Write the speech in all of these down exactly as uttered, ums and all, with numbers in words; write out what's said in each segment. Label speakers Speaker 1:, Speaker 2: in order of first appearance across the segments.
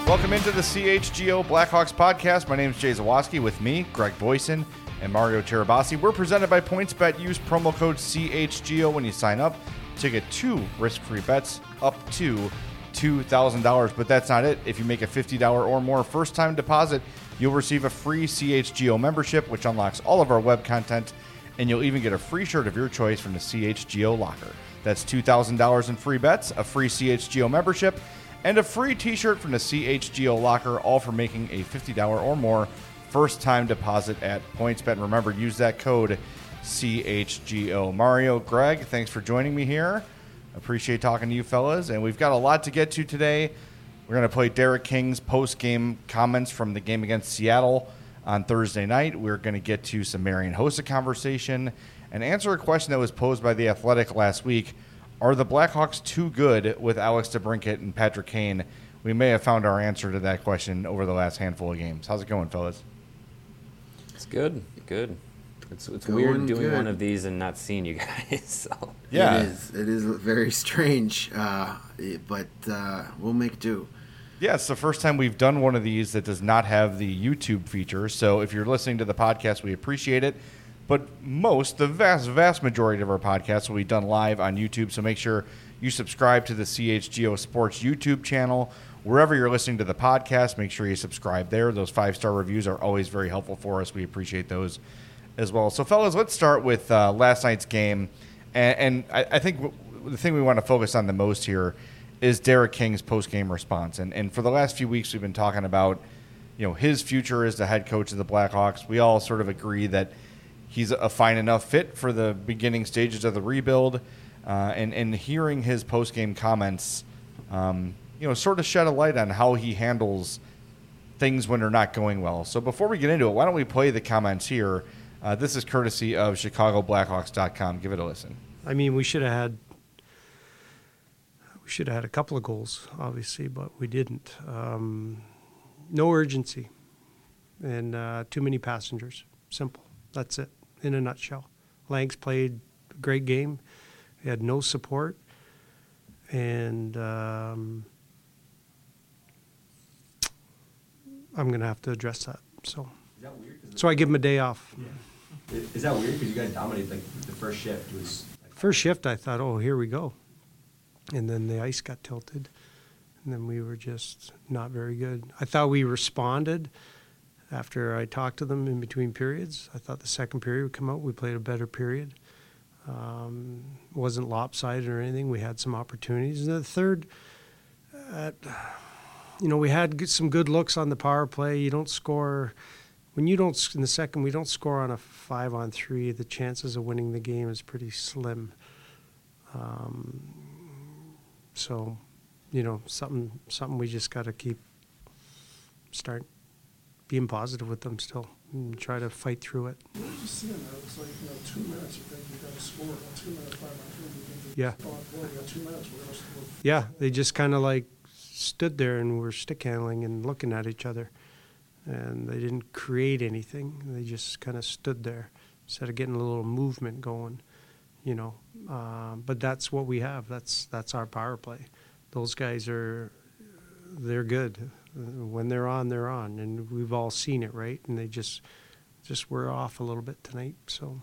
Speaker 1: Welcome into the C H G O Blackhawks podcast. My name is Jay Zawoski. With me, Greg Boyson and Mario Cherabassi. We're presented by PointsBet. Use promo code C H G O when you sign up to get two risk-free bets up to two thousand dollars. But that's not it. If you make a fifty dollars or more first-time deposit, you'll receive a free C H G O membership, which unlocks all of our web content, and you'll even get a free shirt of your choice from the C H G O locker. That's two thousand dollars in free bets, a free C H G O membership, and a free t-shirt from the C H G O locker, all for making a fifty dollars or more first-time deposit at PointsBet. And remember, use that code C H G O. Mario, Greg, thanks for joining me here. Appreciate talking to you fellas. And we've got a lot to get to today. We're going to play Derek King's post-game comments from the game against Seattle on Thursday night. We're going to get to some Marian Hossa conversation and answer a question that was posed by The Athletic last week. Are the Blackhawks too good with Alex DeBrincat and Patrick Kane? We may have found our answer to that question over the last handful of games. How's it going, fellas?
Speaker 2: It's good, good. It's it's
Speaker 3: Going
Speaker 2: weird doing
Speaker 3: good.
Speaker 2: one of these and not seeing you guys. So.
Speaker 1: Yeah,
Speaker 3: it is. It is very strange, uh, but uh, we'll make do.
Speaker 1: Yeah, it's the first time we've done one of these that does not have the YouTube feature. So if you're listening to the podcast, we appreciate it. But most, the vast, vast majority of our podcasts will be done live on YouTube. So make sure you subscribe to the C H G O Sports YouTube channel. Wherever you're listening to the podcast, make sure you subscribe there. Those five-star reviews are always very helpful for us. We appreciate those as well. So, fellas, let's start with uh, last night's game. And, and I, I think w- the thing we want to focus on the most here is Derek King's post-game response. And, and for the last few weeks, we've been talking about, you know, his future as the head coach of the Blackhawks. We all sort of agree that he's a fine enough fit for the beginning stages of the rebuild. Uh, and, and hearing his post-game comments, um, you know, sort of shed a light on how he handles things when they're not going well. So before we get into it, why don't we play the comments here? Uh, this is courtesy of Chicago Blackhawks dot com. Give it a listen.
Speaker 4: I mean, we should have had we should have had a couple of goals, obviously, but we didn't. Um, no urgency, and uh, too many passengers. Simple. That's it, in a nutshell. Langs played a great game. He had no support, and um, I'm going to have to address that. So,
Speaker 5: Is that weird?
Speaker 4: so I give him a day off.
Speaker 5: Yeah. Is is that weird? Because you guys dominated, like, the first shift was... Like,
Speaker 4: First shift, I thought, oh, here we go. And then the ice got tilted. And then we were just not very good. I thought we responded after I talked to them in between periods. I thought the second period would come out. We played a better period. Um, wasn't lopsided or anything. We had some opportunities. And the third, uh, you know, we had good, some good looks on the power play. You don't score... When you don't, in the second, we don't score on a five on three, the chances of winning the game is pretty slim. Um, so, you know, something something we just got to keep, start being positive with them still and try to fight through it.
Speaker 6: What did you see in that? It was like, you know, two minutes, you think you got to score. On two minutes, five on three, you think you
Speaker 4: Yeah.
Speaker 6: thought, well, we got two minutes, we're going to score.
Speaker 4: Yeah, they just kind of like stood there and were stick handling and looking at each other. And they didn't create anything. They just kind of stood there instead of getting a little movement going, you know. Uh, but that's what we have. That's that's our power play. Those guys are, they're good. When they're on, they're on. And we've all seen it, right? And they just, just were off a little bit tonight. So,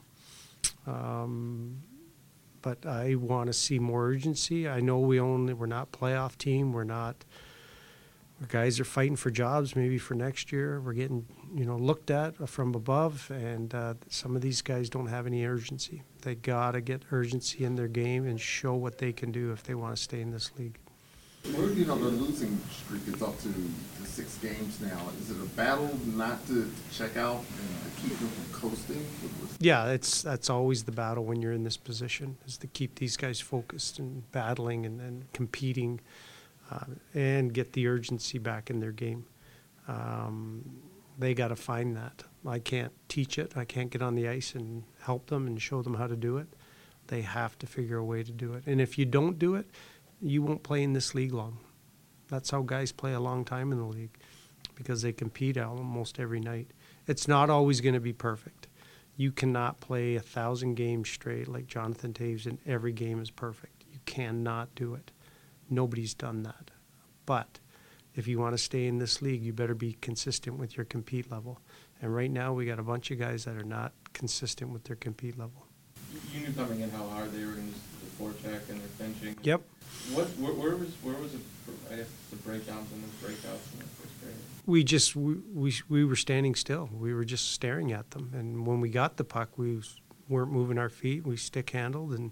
Speaker 4: um, but I want to see more urgency. I know we only, we're not playoff team. We're not. Our guys are fighting for jobs maybe for next year. We're getting, you know, looked at from above, and uh, some of these guys don't have any urgency. They got to get urgency in their game and show what they can do if they want to stay in this league.
Speaker 7: Well, you know, the losing streak is up to, to six games now. Is it a battle not to, to check out and to keep them from coasting?
Speaker 4: Yeah, it's that's always the battle when you're in this position, is to keep these guys focused and battling and, and competing. Uh, and get the urgency back in their game. Um, they got to find that. I can't teach it. I can't get on the ice and help them and show them how to do it. They have to figure a way to do it. And if you don't do it, you won't play in this league long. That's how guys play a long time in the league, because they compete almost every night. It's not always going to be perfect. You cannot play a thousand games straight like Jonathan Toews and every game is perfect. You cannot do it. Nobody's done that. But if you want to stay in this league, you better be consistent with your compete level. And right now, we got a bunch of guys that are not consistent with their compete level.
Speaker 8: You knew coming in how hard they were in the forecheck and their finishing.
Speaker 4: Yep.
Speaker 8: What where, where was where was it? I guess the breakdowns and the breakouts in the first period.
Speaker 4: We just we, we we were standing still. We were just staring at them. And when we got the puck, we weren't moving our feet. We stick handled, and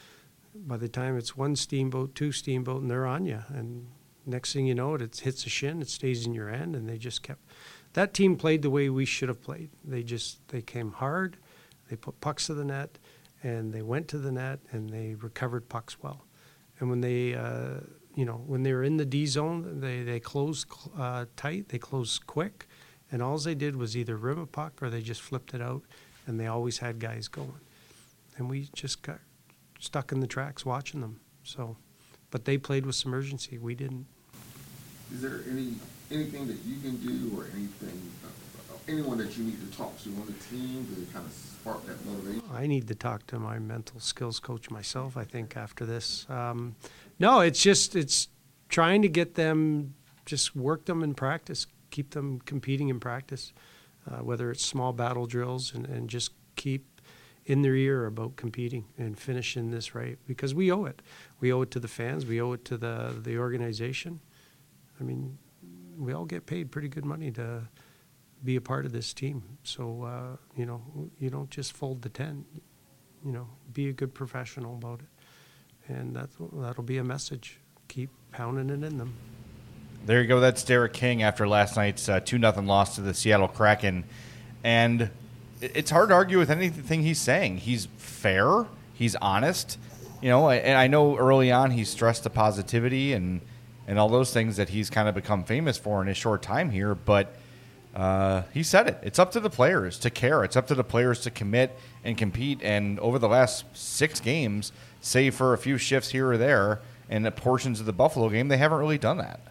Speaker 4: by the time it's one steamboat, two steamboat, and they're on you. And next thing you know, it, it hits a shin, it stays in your end, and they just kept. That team played the way we should have played. They just they came hard, they put pucks to the net, and they went to the net, and they recovered pucks well. And when they, uh, you know, when they were in the D zone, they they closed uh, tight, they closed quick, and all they did was either rim a puck or they just flipped it out, and they always had guys going. And we just got stuck in the tracks watching them. So, but they played with some urgency. We didn't.
Speaker 7: Is there any anything that you can do, or anything, uh, anyone that you need to talk to on the team to kind of spark that motivation?
Speaker 4: I need to talk to my mental skills coach myself, I think, after this. Um, no, it's just it's trying to get them, just work them in practice, keep them competing in practice, uh, whether it's small battle drills, and, and just keep in their ear about competing and finishing this right, because we owe it. We owe it to the fans. We owe it to the the organization. I mean, we all get paid pretty good money to be a part of this team. So, uh, you know, you don't just fold the tent. You know, be a good professional about it. And that's, that'll be a message. Keep pounding it in them.
Speaker 1: There you go. That's Derek King after last night's uh, two nothing loss to the Seattle Kraken. And it's hard to argue with anything he's saying. He's fair. He's honest. You know, and I know early on he stressed the positivity and, and all those things that he's kind of become famous for in his short time here. But uh, he said it. It's up to the players to care. It's up to the players to commit and compete. And over the last six games, save for a few shifts here or there and the portions of the Buffalo game, they haven't really done that.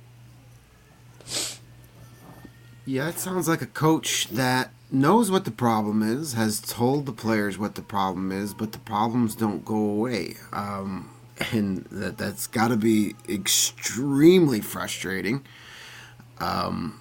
Speaker 3: Yeah, it sounds like a coach that knows what the problem is, has told the players what the problem is, but the problems don't go away. Um, and that, that's got to be extremely frustrating. Um,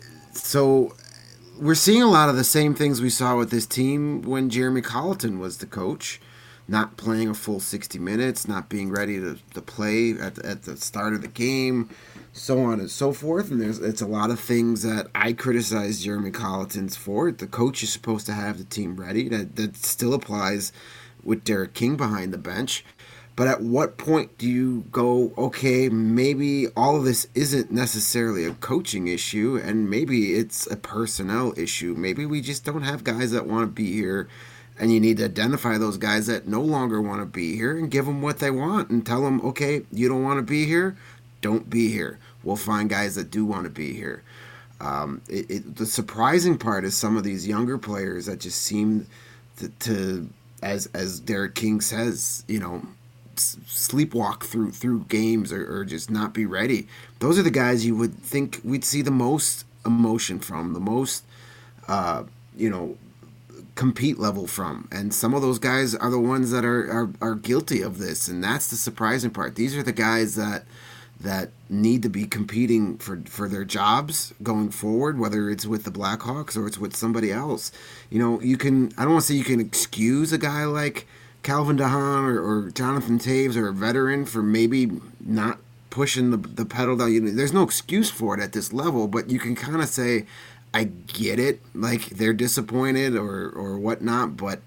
Speaker 3: so we're seeing a lot of the same things we saw with this team when Jeremy Colleton was the coach. Not playing a full sixty minutes, not being ready to, to play at the, at the start of the game, so on and so forth. And there's it's a lot of things that I criticize Jeremy Colleton's for. The coach is supposed to have the team ready. That that still applies with Derek King behind the bench. But at what point do you go, okay, maybe all of this isn't necessarily a coaching issue, and maybe it's a personnel issue. Maybe we just don't have guys that want to be here. And you need to identify those guys that no longer want to be here and give them what they want and tell them, okay, you don't want to be here, don't be here. We'll find guys that do want to be here. Um, it, it, the surprising part is some of these younger players that just seem to, to as as Derek King says, you know, s- sleepwalk through through games or, or just not be ready. Those are the guys you would think we'd see the most emotion from, the most, uh, you know, compete level from, and some of those guys are the ones that are, are are guilty of this, and that's the surprising part. These are the guys that that need to be competing for for their jobs going forward, whether it's with the Blackhawks or it's with somebody else. You know, you can I don't want to say you can excuse a guy like Calvin DeHaan or, or Jonathan Taves or a veteran for maybe not pushing the the pedal down. You know, there's no excuse for it at this level, but you can kind of say, I get it, like they're disappointed or, or whatnot, but,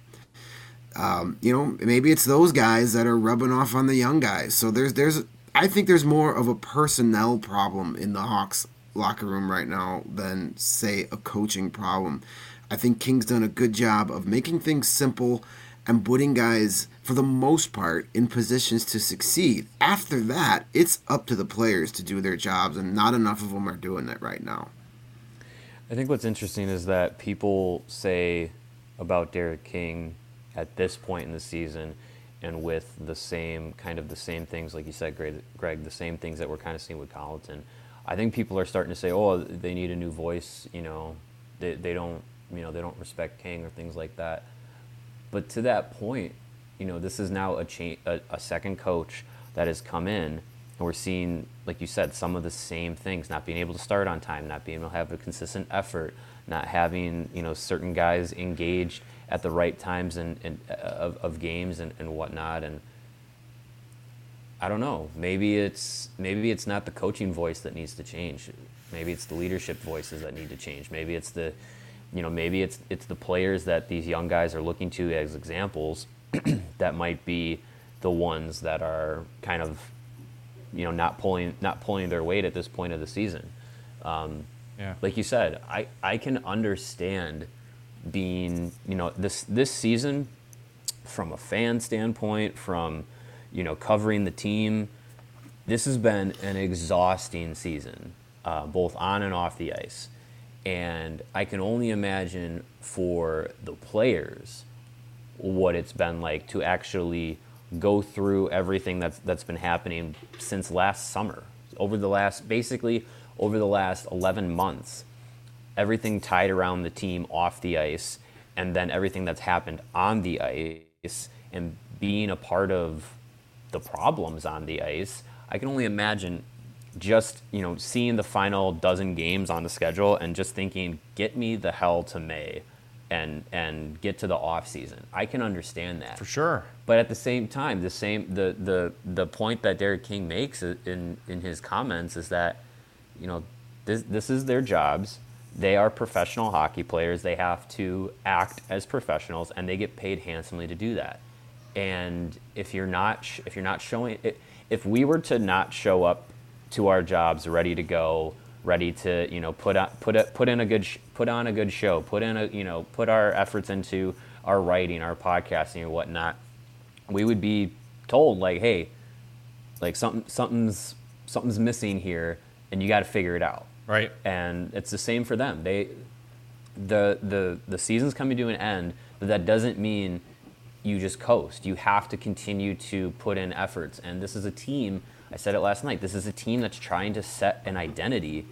Speaker 3: um, you know, maybe it's those guys that are rubbing off on the young guys. So there's, there's, I think there's more of a personnel problem in the Hawks locker room right now than, say, a coaching problem. I think King's done a good job of making things simple and putting guys, for the most part, in positions to succeed. After that, it's up to the players to do their jobs, and not enough of them are doing that right now.
Speaker 2: I think what's interesting is that people say about Derek King at this point in the season, and with the same kind of the same things, like you said, Greg, Greg, the same things that we're kind of seeing with Colleton. I think people are starting to say, oh, they need a new voice. You know, they they don't you know they don't respect King or things like that. But to that point, you know, this is now a cha- a, a second coach that has come in. And we're seeing, like you said, some of the same things, not being able to start on time, not being able to have a consistent effort, not having, you know, certain guys engaged at the right times and, and uh, of, of games and, and whatnot. And I don't know, maybe it's maybe it's not the coaching voice that needs to change. Maybe it's the leadership voices that need to change. Maybe it's the, you know, maybe it's it's the players that these young guys are looking to as examples that might be the ones that are kind of, you know, not pulling not pulling their weight at this point of the season. Um,
Speaker 1: yeah.
Speaker 2: Like you said, I, I can understand being, you know, this this season from a fan standpoint, from, you know, covering the team, this has been an exhausting season, uh, both on and off the ice. And I can only imagine for the players what it's been like to actually go through everything that's that's been happening since last summer, over the last basically over the last eleven months, everything tied around the team off the ice, and then everything that's happened on the ice, and being a part of the problems on the ice. I can only imagine just, you know, seeing the final dozen games on the schedule and just thinking, get me the hell to May and and get to the off season. I can understand that.
Speaker 1: For sure.
Speaker 2: But at the same time, the same the the the point that Derek King makes in in his comments is that, you know, this this is their jobs. They are professional hockey players. They have to act as professionals, and they get paid handsomely to do that. And if you're not sh- if you're not showing it, if we were to not show up to our jobs ready to go, ready to, you know, put on, put a, put in a good sh- put on a good show, put in a, you know, put our efforts into our writing, our podcasting, and whatnot, we would be told, like, hey, like something something's something's missing here, and you got to figure it out.
Speaker 1: Right.
Speaker 2: And it's the same for them. They the the the season's coming to an end, but that doesn't mean you just coast. You have to continue to put in efforts. And this is a team, I said it last night, this is a team that's trying to set an identity,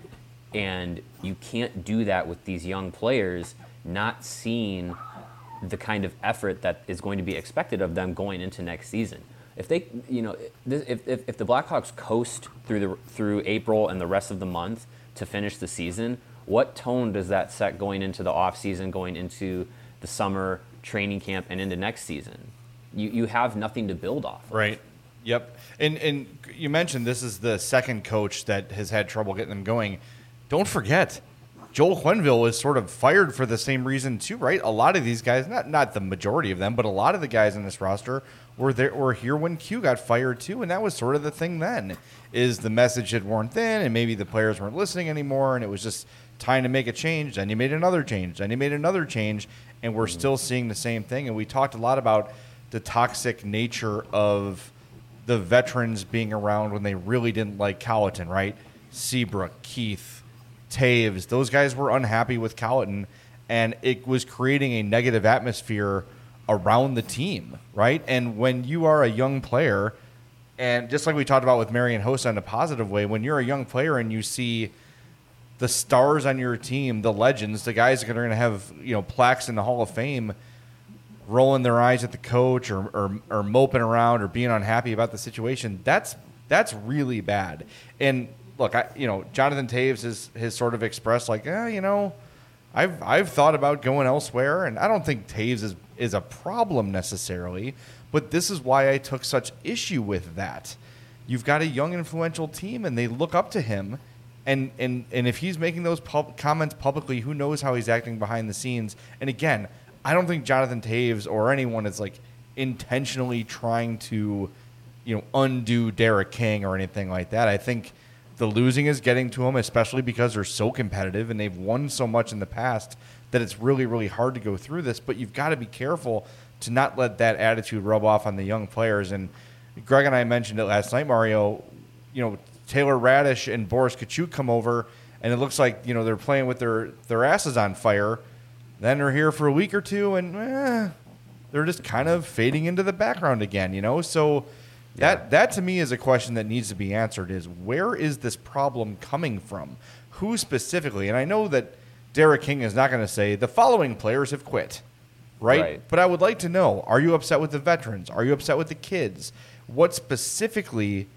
Speaker 2: and you can't do that with these young players not seeing the kind of effort that is going to be expected of them going into next season. If they, you know, if if, if the Blackhawks coast through the through April and the rest of the month to finish the season, what tone does that set going into the off season, going into the summer training camp and into next season? You you have nothing to build off of.
Speaker 1: Right. Yep. And and you mentioned this is the second coach that has had trouble getting them going. Don't forget, Joel Quenneville was sort of fired for the same reason too, right? A lot of these guys, not not the majority of them, but a lot of the guys in this roster were there were here when Q got fired too, and that was sort of the thing then, is the message had worn thin, and maybe the players weren't listening anymore, and it was just time to make a change. Then you made another change. Then you made another change, and we're mm-hmm. still seeing the same thing. And we talked a lot about the toxic nature of the veterans being around when they really didn't like Colliton, right? Seabrook, Keith, Taves, those guys were unhappy with Colliton, and it was creating a negative atmosphere around the team, right? And when you are a young player, and just like we talked about with Marian Hossa in a positive way, when you're a young player and you see the stars on your team, the legends, the guys that are going to have, you know, plaques in the Hall of Fame, rolling their eyes at the coach or, or or moping around or being unhappy about the situation, that's that's really bad. And look, I you know, Jonathan Taves has, has sort of expressed like, eh, you know, I've I've thought about going elsewhere, and I don't think Taves is is a problem necessarily, but this is why I took such issue with that. You've got a young, influential team, and they look up to him, and and and if he's making those pub- comments publicly, who knows how he's acting behind the scenes? And again, I don't think Jonathan Taves or anyone is like intentionally trying to, you know, undo Derek King or anything like that. I think the losing is getting to them, especially because they're so competitive and they've won so much in the past that it's really, really hard to go through this. But you've got to be careful to not let that attitude rub off on the young players. And Greg and I mentioned it last night, Mario. You know, Taylor Radish and Boris Kachuk come over, and it looks like, you know, they're playing with their, their asses on fire. Then they're here for a week or two, and eh, they're just kind of fading into the background again, you know? So that yeah. that to me is a question that needs to be answered, is where is this problem coming from? Who specifically? And I know that Derek King is not going to say the following players have quit, right? right? But I would like to know, are you upset with the veterans? Are you upset with the kids? What specifically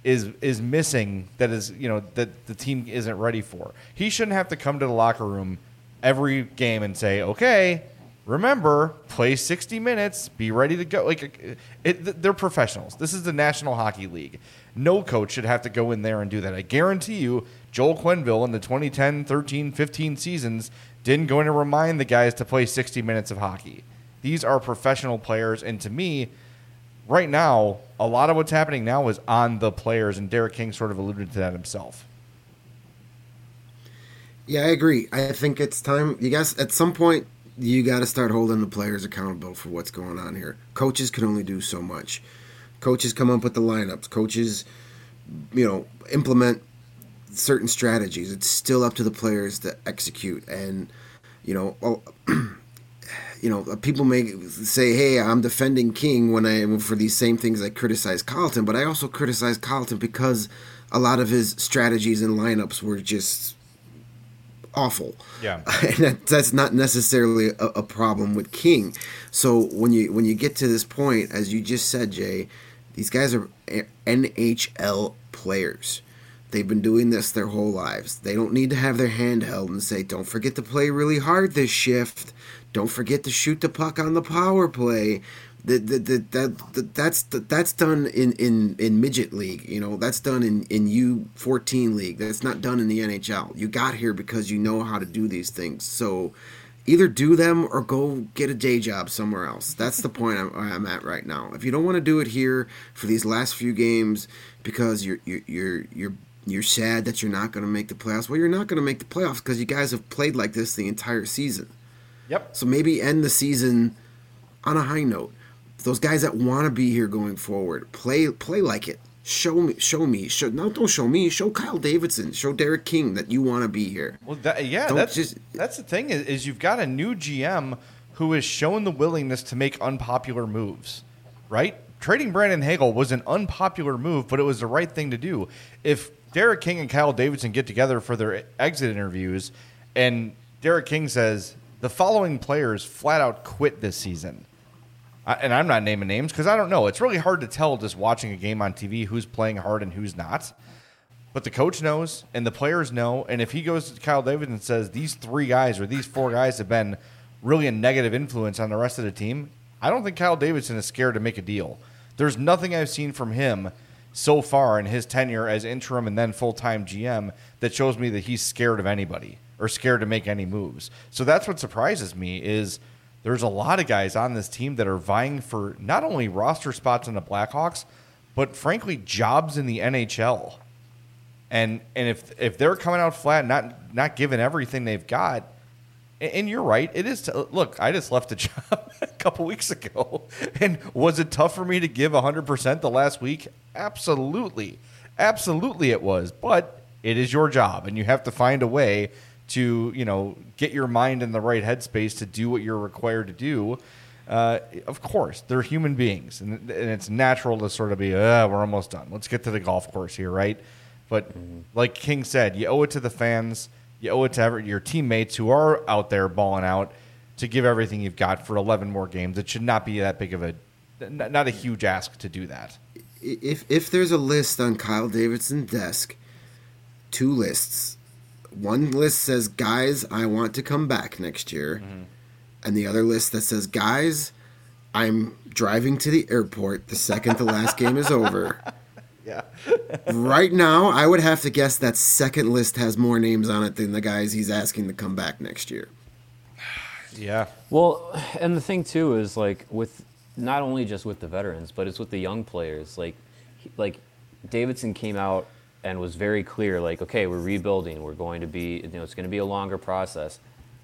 Speaker 1: is is missing that is, you know, that the team isn't ready for. He shouldn't have to come to the locker room every game and say, okay, remember, play sixty minutes, be ready to go. Like, it, they're professionals. This is the National Hockey League. No coach should have to go in there and do that. I guarantee you, Joel Quenneville in the twenty ten, thirteen, fifteen seasons didn't go in and remind the guys to play sixty minutes of hockey. These are professional players, and to me, right now, a lot of what's happening now is on the players, and Derek King sort of alluded to that himself.
Speaker 3: Yeah, I agree. I think it's time. You guys, at some point, you got to start holding the players accountable for what's going on here. Coaches can only do so much. Coaches come up with the lineups. Coaches, you know, implement certain strategies. It's still up to the players to execute. And, you know, well, you know, people may say, hey, I'm defending King when I, for these same things I criticize Carlton, but I also criticize Carlton because a lot of his strategies and lineups were just awful.
Speaker 1: Yeah.
Speaker 3: And that, that's not necessarily a, a problem with King. So when you when you get to this point, as you just said, Jay, these guys are N H L players. They've been doing this their whole lives. They don't need to have their hand held and say, don't forget to play really hard this shift. Don't forget to shoot the puck on the power play. That that that, that, that that's that's done in, in, in midget league. You know, that's done in, in U fourteen league. That's not done in the N H L. You got here because you know how to do these things. So either do them or go get a day job somewhere else. That's the point I'm, I'm at right now. If you don't want to do it here for these last few games because you're you're you're you're, you're sad that you're not going to make the playoffs, well, you're not going to make the playoffs because you guys have played like this the entire season.
Speaker 1: Yep.
Speaker 3: So maybe end the season on a high note. Those guys that want to be here going forward, play play like it. Show me, show me. Show, no, don't show me. Show Kyle Davidson. Show Derek King that you want to be here.
Speaker 1: Well, that, yeah,
Speaker 3: Don't
Speaker 1: that's
Speaker 3: just-
Speaker 1: that's the thing is, is you've got a new G M who has shown the willingness to make unpopular moves, right? Trading Brandon Hagel was an unpopular move, but it was the right thing to do. If Derek King and Kyle Davidson get together for their exit interviews, and Derek King says the following players flat out quit this season. I, and I'm not naming names because I don't know. It's really hard to tell just watching a game on T V who's playing hard and who's not. But the coach knows and the players know. And if he goes to Kyle Davidson and says these three guys or these four guys have been really a negative influence on the rest of the team, I don't think Kyle Davidson is scared to make a deal. There's nothing I've seen from him so far in his tenure as interim and then full-time G M that shows me that he's scared of anybody or scared to make any moves. So that's what surprises me is – there's a lot of guys on this team that are vying for not only roster spots in the Blackhawks, but frankly, jobs in the N H L. And and if if they're coming out flat, not not giving everything they've got, and, and you're right, it is. To, look, I just left a job a couple weeks ago, and was it tough for me to give one hundred percent the last week? Absolutely, absolutely, it was. But it is your job, and you have to find a way to, you know, get your mind in the right headspace to do what you're required to do. Uh, of course, they're human beings, and, and it's natural to sort of be, uh, we're almost done. Let's get to the golf course here, right? But mm-hmm. like King said, you owe it to the fans, you owe it to every, your teammates who are out there balling out to give everything you've got for eleven more games. It should not be that big of a, not a huge ask to do that.
Speaker 3: If if there's a list on Kyle Davidson's desk, two lists. One list says, guys, I want to come back next year. Mm-hmm. And the other list that says, guys, I'm driving to the airport the second the last game is over.
Speaker 1: Yeah.
Speaker 3: Right now, I would have to guess that second list has more names on it than the guys he's asking to come back next year.
Speaker 1: Yeah.
Speaker 2: Well, and the thing, too, is, like, with not only just with the veterans, but it's with the young players. Like, like Davidson came out and was very clear, like, okay, we're rebuilding. We're going to be, you know, it's going to be a longer process.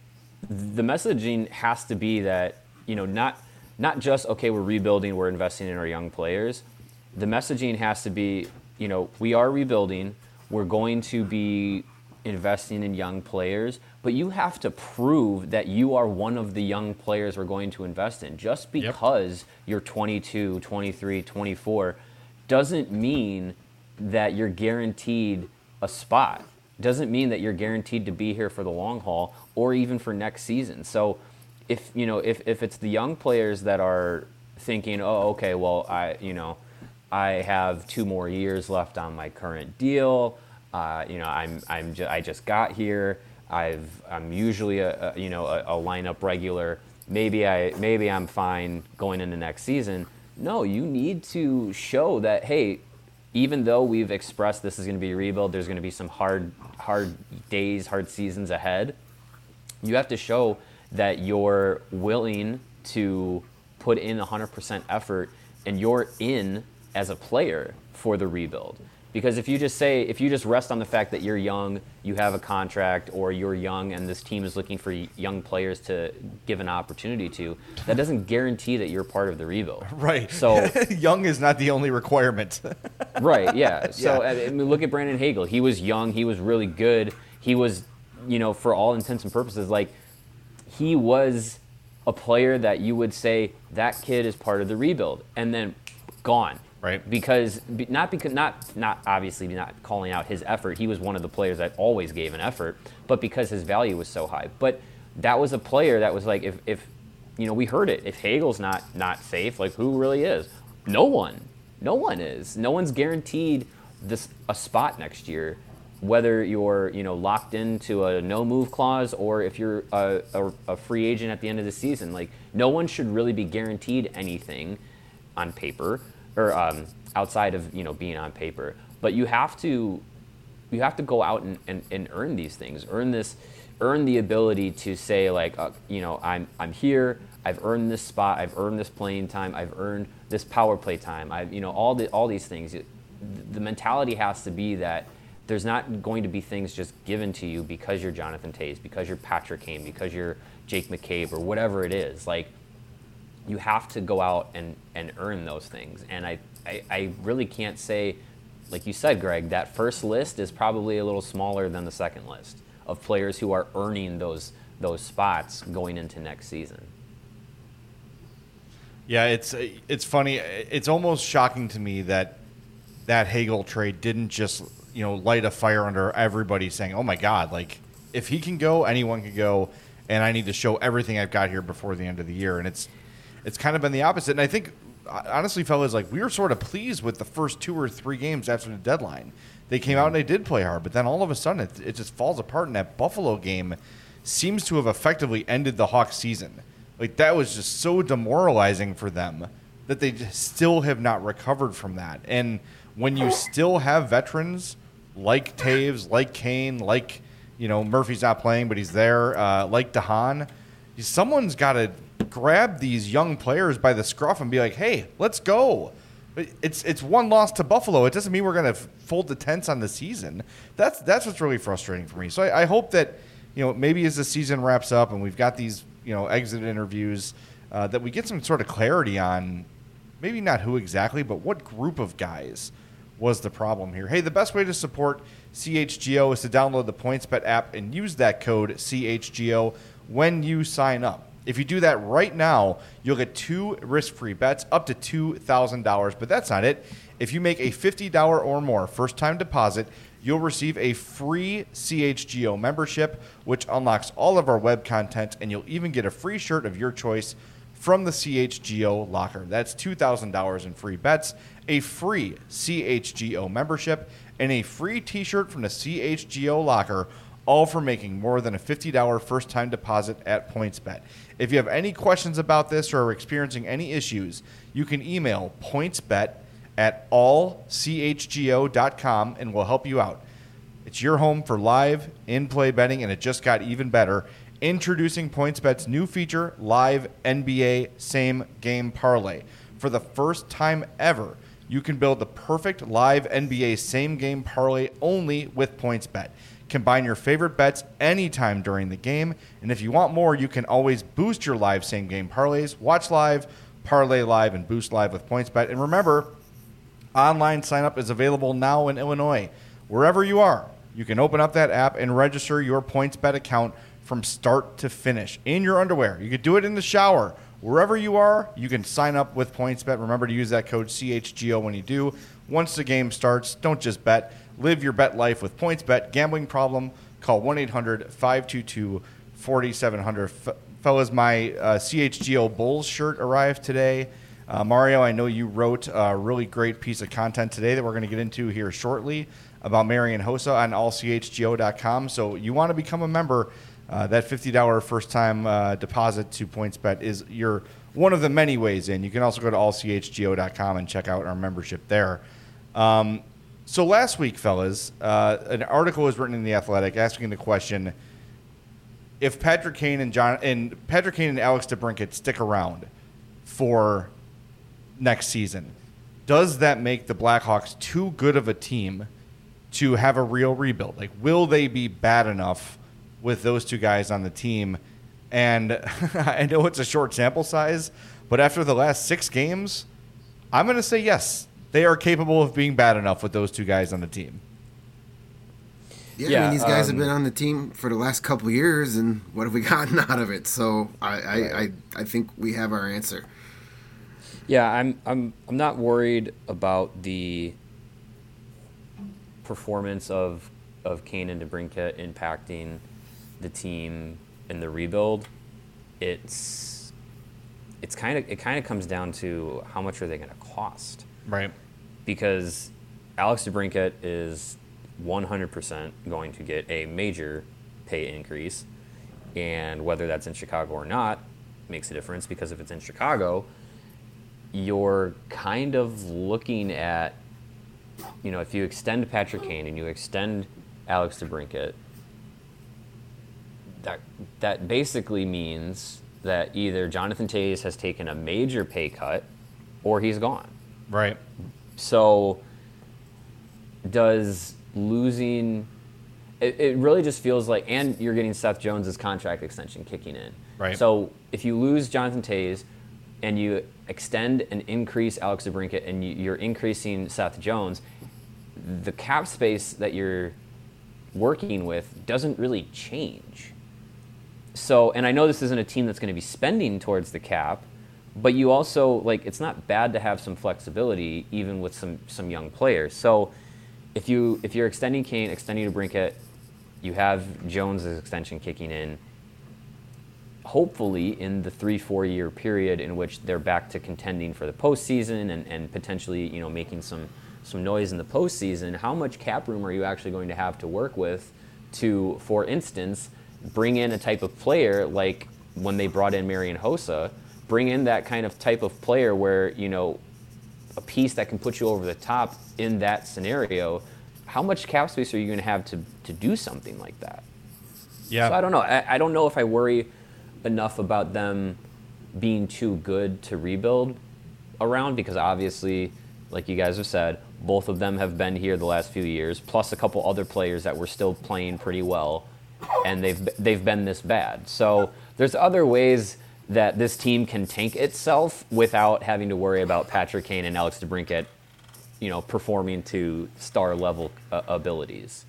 Speaker 2: The messaging has to be that, you know, not not just, okay, we're rebuilding, we're investing in our young players. The messaging has to be, you know, we are rebuilding. We're going to be investing in young players, but you have to prove that you are one of the young players we're going to invest in. Just because yep. you're twenty-two, twenty-three, twenty-four doesn't mean that you're guaranteed a spot. Doesn't mean that you're guaranteed to be here for the long haul or even for next season. So if, you know, if, if it's the young players that are thinking, oh, okay, well, I, you know, I have two more years left on my current deal. Uh, you know, I'm I'm ju- I just got here. I've I'm usually a, a you know a, a lineup regular. Maybe I maybe I'm fine going into next season. No, you need to show that, hey, even though we've expressed this is going to be a rebuild, there's going to be some hard hard days, hard seasons ahead. You have to show that you're willing to put in one hundred percent effort and you're in as a player for the rebuild. Because if you just say, if you just rest on the fact that you're young, you have a contract, or you're young and this team is looking for young players to give an opportunity to, that doesn't guarantee that you're part of the rebuild.
Speaker 1: Right.
Speaker 2: So
Speaker 1: young is not the only requirement.
Speaker 2: Right, yeah. So
Speaker 1: Yeah.
Speaker 2: I mean, look at Brandon Hagel. He was young. He was really good. He was, you know, for all intents and purposes, like, he was a player that you would say, that kid is part of the rebuild. And then gone.
Speaker 1: Right.
Speaker 2: Because not because not not obviously not calling out his effort. He was one of the players that always gave an effort, but because his value was so high. But that was a player that was like, if, if you know, we heard it. If Hagel's not not safe, like, who really is? No one. No one is. No one's guaranteed this a spot next year, whether you're, you know, locked into a no move clause or if you're a, a, a free agent at the end of the season. Like, no one should really be guaranteed anything on paper. Or um, outside of, you know, being on paper, but you have to, you have to go out and, and, and earn these things, earn this, earn the ability to say, like, uh, you know, I'm I'm here, I've earned this spot, I've earned this playing time, I've earned this power play time, I've, you know, all the all these things. The mentality has to be that there's not going to be things just given to you because you're Jonathan Toews, because you're Patrick Kane, because you're Jake McCabe, or whatever it is. Like, you have to go out and, and earn those things. And I, I, I really can't say, like you said, Greg, that first list is probably a little smaller than the second list of players who are earning those those spots going into next season.
Speaker 1: Yeah, it's it's funny. It's almost shocking to me that that Hagel trade didn't just, you know, light a fire under everybody saying, oh my God, like, if he can go, anyone can go, and I need to show everything I've got here before the end of the year. And it's It's kind of been the opposite. And I think, honestly, fellas, like, we were sort of pleased with the first two or three games after the deadline. They came out and they did play hard, but then all of a sudden it, it just falls apart. And that Buffalo game seems to have effectively ended the Hawks season. Like, that was just so demoralizing for them that they just still have not recovered from that. And when you still have veterans like Taves, like Kane, like, you know, Murphy's not playing, but he's there, uh, like DeHaan, someone's got to grab these young players by the scruff and be like, hey, let's go. It's it's one loss to Buffalo. It doesn't mean we're going to fold the tents on the season. That's that's what's really frustrating for me. So I, I hope that, you know, maybe as the season wraps up and we've got these, you know, exit interviews, uh, that we get some sort of clarity on maybe not who exactly, but what group of guys was the problem here. Hey, the best way to support C H G O is to download the PointsBet app and use that code C H G O when you sign up. If you do that right now, you'll get two risk-free bets up to two thousand dollars. But that's not it. If you make a fifty dollars or more first-time deposit, you'll receive a free C H G O membership, which unlocks all of our web content, and you'll even get a free shirt of your choice from the C H G O locker. That's two thousand dollars in free bets, a free C H G O membership, and a free t-shirt from the C H G O locker, all for making more than a fifty dollars first-time deposit at PointsBet. If you have any questions about this or are experiencing any issues, you can email pointsbet at all c h g o dot com and we'll help you out. It's your home for live in-play betting, and it just got even better. Introducing PointsBet's new feature, Live N B A Same Game Parlay. For the first time ever, you can build the perfect live N B A Same Game Parlay only with PointsBet. Combine your favorite bets anytime during the game, and if you want more, you can always boost your live Same Game Parlays. Watch live, parlay live, and boost live with PointsBet. And remember, online sign-up is available now in Illinois. Wherever you are, you can open up that app and register your PointsBet account from start to finish in your underwear. You could do it in the shower. Wherever you are, you can sign up with PointsBet. Remember to use that code C H G O when you do. Once the game starts, don't just bet. Live your bet life with PointsBet. Gambling problem? Call one eight hundred five two two four seven zero zero. F- fellas, my uh, C H G O Bulls shirt arrived today. Uh, Mario, I know you wrote a really great piece of content today that we're going to get into here shortly about Marian Hossa on all c h g o dot com. So you want to become a member, uh, that fifty dollars first-time uh, deposit to PointsBet is your one of the many ways in. You can also go to all c h g o dot com and check out our membership there. Um, so last week, fellas, uh, an article was written in The Athletic asking the question, if Patrick Kane and John and Patrick Kane and Alex DeBrincat stick around for next season, does that make the Blackhawks too good of a team to have a real rebuild? Like, will they be bad enough with those two guys on the team? And I know it's a short sample size, but after the last six games, I'm going to say yes. They are capable of being bad enough with those two guys on the team.
Speaker 3: Yeah,
Speaker 2: Yeah,
Speaker 3: I mean, these guys
Speaker 2: um,
Speaker 3: have been on the team for the last couple of years, and what have we gotten out of it? So I, I, I, I think we have our answer.
Speaker 2: Yeah, I'm I'm I'm not worried about the performance of of Kane and DeBrincat impacting the team in the rebuild. It's it's kind of it kind of comes down to how much are they going to cost,
Speaker 1: Right.
Speaker 2: because Alex DeBrincat is one hundred percent going to get a major pay increase, and whether that's in Chicago or not makes a difference, because if it's in Chicago, you're kind of looking at, you know, if you extend Patrick Kane and you extend Alex DeBrincat, that that basically means that either Jonathan Toews has taken a major pay cut or he's gone.
Speaker 1: Right.
Speaker 2: So does losing it, it really just feels like, and you're getting Seth Jones' contract extension kicking in.
Speaker 1: Right.
Speaker 2: So if you lose Jonathan Toews and you extend and increase Alex DeBrincat and you, you're increasing Seth Jones, the cap space that you're working with doesn't really change. So, and I know this isn't a team that's going to be spending towards the cap, but you also, like, it's not bad to have some flexibility even with some, some young players. So if, you, if you're extending Kane, extending DeBrincat, you have Jones' extension kicking in, hopefully in the three, four year period in which they're back to contending for the postseason and, and potentially, you know, making some, some noise in the postseason, how much cap room are you actually going to have to work with to, for instance, bring in a type of player like when they brought in Marian Hossa, bring in that kind of type of player where, you know, a piece that can put you over the top in that scenario. How much cap space are you going to have to, to do something like that?
Speaker 1: Yeah.
Speaker 2: So I don't know. I, I don't know if I worry enough about them being too good to rebuild around, because obviously, like you guys have said, both of them have been here the last few years, plus a couple other players that were still playing pretty well, and they've they've been this bad. So there's other ways that this team can tank itself without having to worry about Patrick Kane and Alex DeBrincat, you know, performing to star level uh, abilities.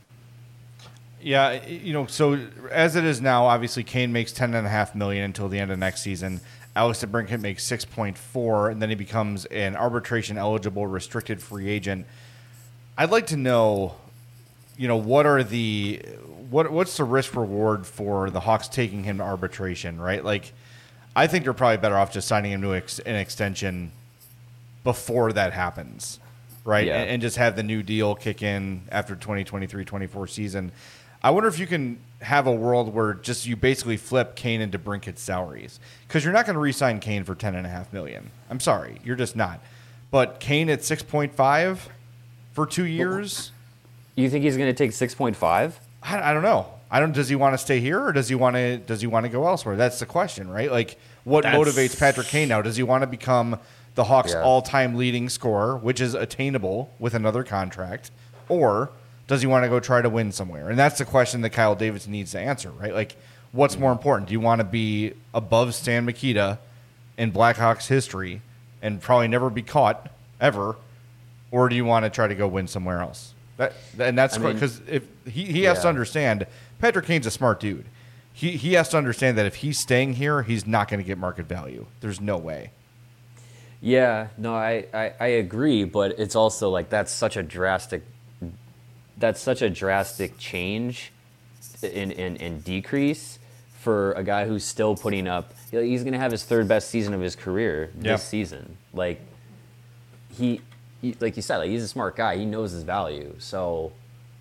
Speaker 1: Yeah, you know, so as it is now, obviously Kane makes ten and a half million until the end of next season. Alex DeBrincat makes six point four, and then he becomes an arbitration eligible restricted free agent. I'd like to know, you know, what are the what what's the risk reward for the Hawks taking him to arbitration, right? Like, I think they're probably better off just signing him to ex- an extension before that happens, right?
Speaker 2: Yeah.
Speaker 1: And, and just have the new deal kick in after twenty twenty-three twenty-four season. I wonder if you can have a world where just you basically flip Kane and DeBrincat's salaries, because you're not going to re-sign Kane for ten and a half million. I'm sorry, you're just not. But Kane at six point five for two years.
Speaker 2: You think he's going to take six point five?
Speaker 1: I, I don't know. I don't. Does he want to stay here, or does he want to? Does he want to go elsewhere? That's the question, right? Like, what
Speaker 2: That's-
Speaker 1: motivates Patrick Kane now? Does he want to become the Hawks'
Speaker 2: Yeah.
Speaker 1: all-time leading scorer, which is attainable with another contract, or does he want to go try to win somewhere? And that's the question that Kyle Davidson needs to answer, right? Like, what's more important? Do you want to be above Stan Mikita in Blackhawks history and probably never be caught ever, or do you want to try to go win somewhere else? That and that's
Speaker 2: I mean,
Speaker 1: because if he, he has
Speaker 2: yeah.
Speaker 1: to understand, Patrick Kane's a smart dude. He he has to understand that if he's staying here, he's not going to get market value. There's no way.
Speaker 2: Yeah, no, I, I, I agree, but it's also like that's such a drastic that's such a drastic change in, in, in decrease for a guy who's still putting up. He's going to have his third best season of his career this
Speaker 1: Yeah.
Speaker 2: season. Like he, he, like you said, like he's a smart guy. He knows his value. So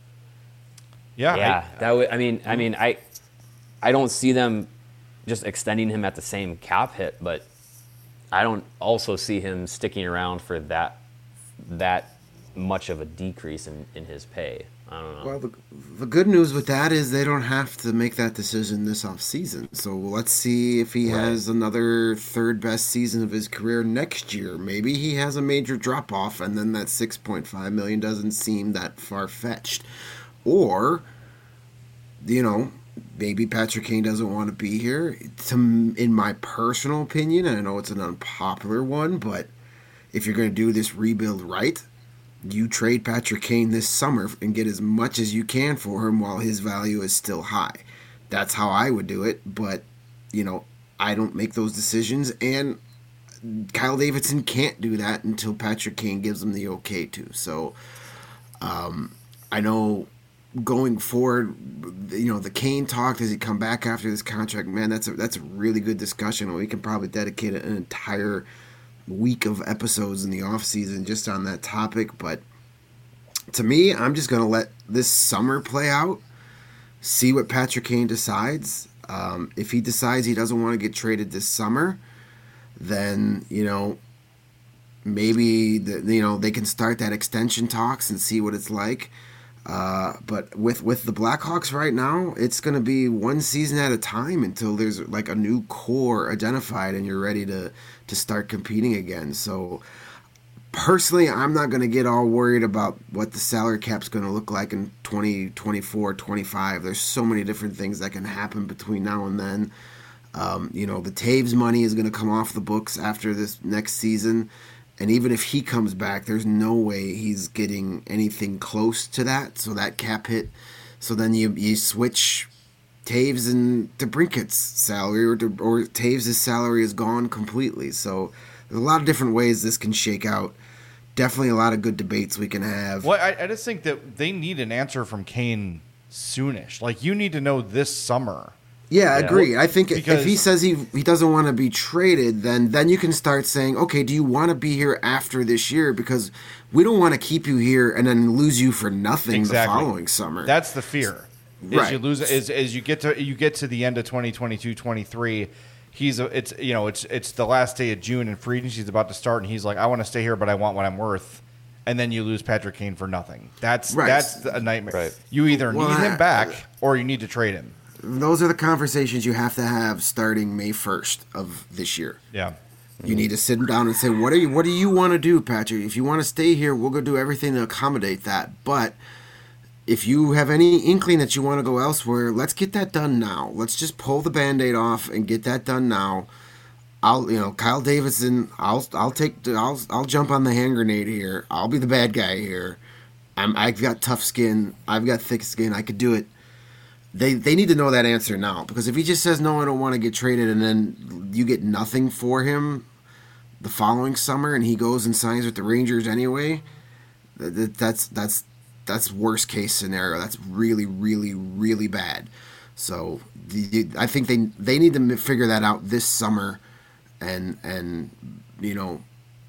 Speaker 1: Yeah,
Speaker 2: yeah,
Speaker 1: I-
Speaker 2: that would. I mean, I mean, I, I don't see them just extending him at the same cap hit, but I don't also see him sticking around for that, that much of a decrease in, in his pay. I don't know.
Speaker 3: Well, the, the good news with that is they don't have to make that decision this off season. So let's see if he
Speaker 2: Right.
Speaker 3: has another third best season of his career next year. Maybe he has a major drop off, and then that six point five million doesn't seem that far fetched. Or, you know, maybe Patrick Kane doesn't want to be here. To, in my personal opinion, and I know it's an unpopular one, but if you're going to do this rebuild right, you trade Patrick Kane this summer and get as much as you can for him while his value is still high. That's how I would do it, but, you know, I don't make those decisions, and Kyle Davidson can't do that until Patrick Kane gives him the okay to. So, um, I know going forward, you know, the Kane talk, does he come back after this contract? Man, that's a, that's a really good discussion. We can probably dedicate an entire week of episodes in the off season just on that topic, but to me, I'm just going to let this summer play out, see what Patrick Kane decides. Um, if he decides he doesn't want to get traded this summer, then, you know, maybe the, you know, they can start that extension talks and see what it's like. Uh, but with with the Blackhawks right now, it's going to be one season at a time until there's like a new core identified and you're ready to to start competing again. So personally, I'm not going to get all worried about what the salary cap's going to look like in twenty twenty-four, twenty-five. There's so many different things that can happen between now and then. Um, you know, the Taves money is going to come off the books after this next season. And even if he comes back, there's no way he's getting anything close to that. So that cap hit. So then you you switch Taves and DeBrincat's salary, or or Taves' salary is gone completely. So there's a lot of different ways this can shake out. Definitely a lot of good debates we can have.
Speaker 1: Well, I, I just think that they need an answer from Kane soonish. Like, you need to know this summer.
Speaker 3: Yeah, I
Speaker 2: Yeah.
Speaker 3: agree. I think
Speaker 1: Because-
Speaker 3: if he says he he doesn't want to be traded, then then you can start saying, okay, do you want to be here after this year? Because we don't want to keep you here and then lose you for nothing
Speaker 1: Exactly.
Speaker 3: the following summer.
Speaker 1: That's the fear. Is
Speaker 3: Right.
Speaker 1: you lose is as you get to you get to the end of twenty twenty-two twenty-three. He's a, it's you know it's it's the last day of June and free agency's about to start, and he's like, I want to stay here, but I want what I'm worth. And then you lose Patrick Kane for nothing. That's
Speaker 3: Right.
Speaker 1: that's a nightmare.
Speaker 2: Right.
Speaker 1: You either
Speaker 3: Well,
Speaker 1: need him
Speaker 3: I-
Speaker 1: back or you need to trade him.
Speaker 3: Those are the conversations you have to have starting May first of this year.
Speaker 1: Yeah.
Speaker 3: You need to sit him down and say, what are you what do you want to do, Patrick? If you want to stay here, we'll go do everything to accommodate that. But if you have any inkling that you want to go elsewhere, let's get that done now. Let's just pull the Band-Aid off and get that done now. I'll, you know, Kyle Davidson, I'll I'll take I'll I'll jump on the hand grenade here. I'll be the bad guy here. I'm I've got tough skin. I've got thick skin. I could do it. They they need to know that answer now, because if he just says no, I don't want to get traded, and then you get nothing for him the following summer, and he goes and signs with the Rangers anyway, that, that's that's that's worst case scenario. That's really really really bad. So the, I think they they need to figure that out this summer, and and you know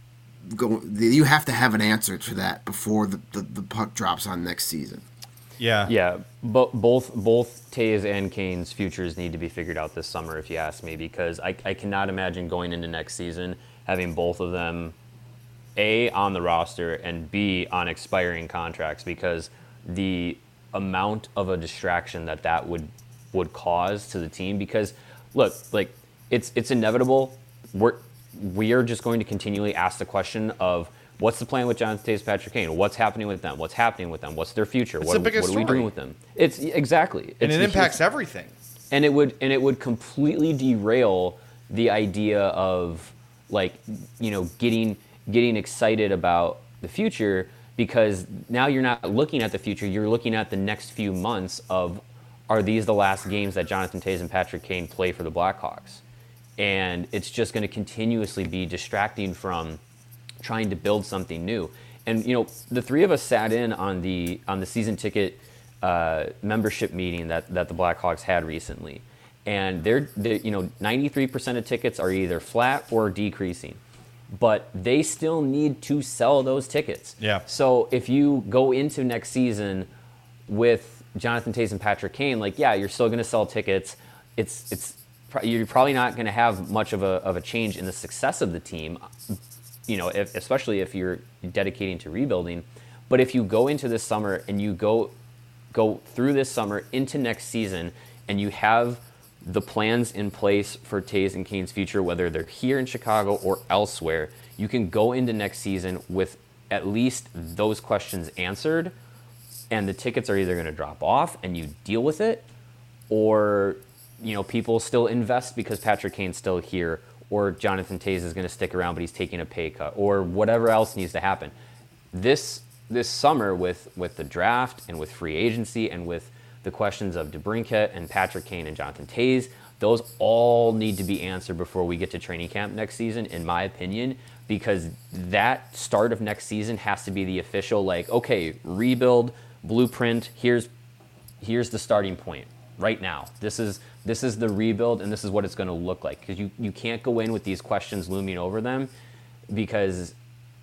Speaker 3: go. You have to have an answer to that before the, the, the puck drops on next season.
Speaker 1: Yeah.
Speaker 2: Yeah, but both both Taves and Kane's futures need to be figured out this summer, if you ask me, because I, I cannot imagine going into next season having both of them, A, on the roster, and B, on expiring contracts, because the amount of a distraction that that would would cause to the team. Because, look, like, it's it's inevitable. We're, we are just going to continually ask the question of, what's the plan with Jonathan Taves, Patrick Kane? What's happening with them? What's happening with them? What's their future?
Speaker 1: It's
Speaker 2: what,
Speaker 1: the biggest
Speaker 2: what are we
Speaker 1: story.
Speaker 2: doing with them? It's exactly,
Speaker 1: And
Speaker 2: it's
Speaker 1: it
Speaker 2: the
Speaker 1: impacts
Speaker 2: huge-
Speaker 1: everything.
Speaker 2: and it would and it would completely derail the idea of, like, you know, getting getting excited about the future, because now you're not looking at the future, you're looking at the next few months of, are these the last games that Jonathan Taves and Patrick Kane play for the Blackhawks? And it's just going to continuously be distracting from trying to build something new. And, you know, the three of us sat in on the on the season ticket uh, membership meeting that, that the Blackhawks had recently. and they're, they're you know ninety-three percent of tickets are either flat or decreasing, but they still need to sell those tickets.
Speaker 1: Yeah.
Speaker 2: So if you go into next season with Jonathan Toews and Patrick Kane, like yeah, you're still going to sell tickets. It's it's you're probably not going to have much of a of a change in the success of the team, you know, if, especially if you're dedicating to rebuilding. But if you go into this summer and you go go through this summer into next season and you have the plans in place for Toews and Kane's future, whether they're here in Chicago or elsewhere, you can go into next season with at least those questions answered, and the tickets are either going to drop off and you deal with it, or you know people still invest because Patrick Kane's still here, or Jonathan Toews is going to stick around but he's taking a pay cut, or whatever else needs to happen. This this summer with, with the draft and with free agency and with the questions of DeBrincat and Patrick Kane and Jonathan Toews, those all need to be answered before we get to training camp next season, in my opinion, because that start of next season has to be the official, like, okay, rebuild, blueprint, here's here's the starting point right now. This is this is the rebuild, and this is what it's going to look like, because you, you can't go in with these questions looming over them, because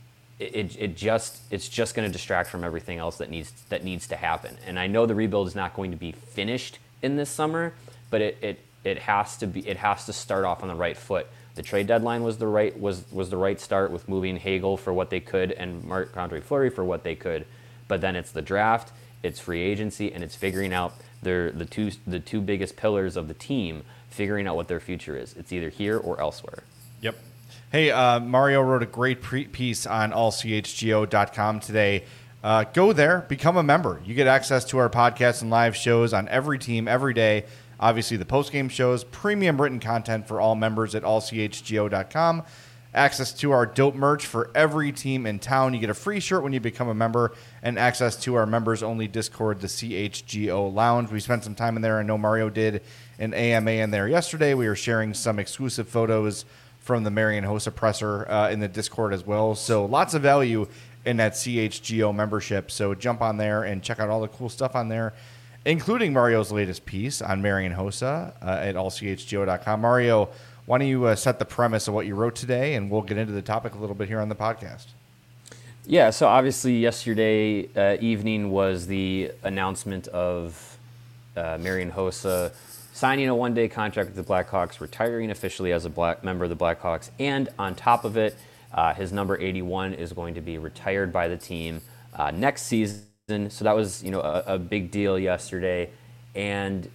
Speaker 2: It, it just it's just going to distract from everything else that needs that needs to happen. And I know the rebuild is not going to be finished in this summer, but it, it it has to be it has to start off on the right foot. The trade deadline was the right was was the right start with moving Hagel for what they could and Marc-Andre Fleury for what they could. But then it's the draft, it's free agency, and it's figuring out their the two the two biggest pillars of the team, figuring out what their future is. It's either here or elsewhere.
Speaker 1: Yep. Hey, uh, Mario wrote a great pre- piece on all c h g o dot com today. Uh, go there, become a member. You get access to our podcasts and live shows on every team, every day. Obviously, the post-game shows, premium written content for all members at all c h g o dot com. Access to our dope merch for every team in town. You get a free shirt when you become a member, and access to our members-only Discord, the C H G O Lounge. We spent some time in there. I know Mario did an A M A in there yesterday. We were sharing some exclusive photos from the Marian Hossa presser uh, in the Discord as well. So lots of value in that C H G O membership. So jump on there and check out all the cool stuff on there, including Mario's latest piece on Marian Hossa uh, at all c h g o dot com. Mario, why don't you uh, set the premise of what you wrote today, and we'll get into the topic a little bit here on the podcast.
Speaker 2: Yeah, so obviously yesterday uh, evening was the announcement of uh, Marian Hossa signing a one-day contract with the Blackhawks, retiring officially as a black member of the Blackhawks, and on top of it, uh, his number eighty-one is going to be retired by the team uh, next season. So that was, you know, a, a big deal yesterday. And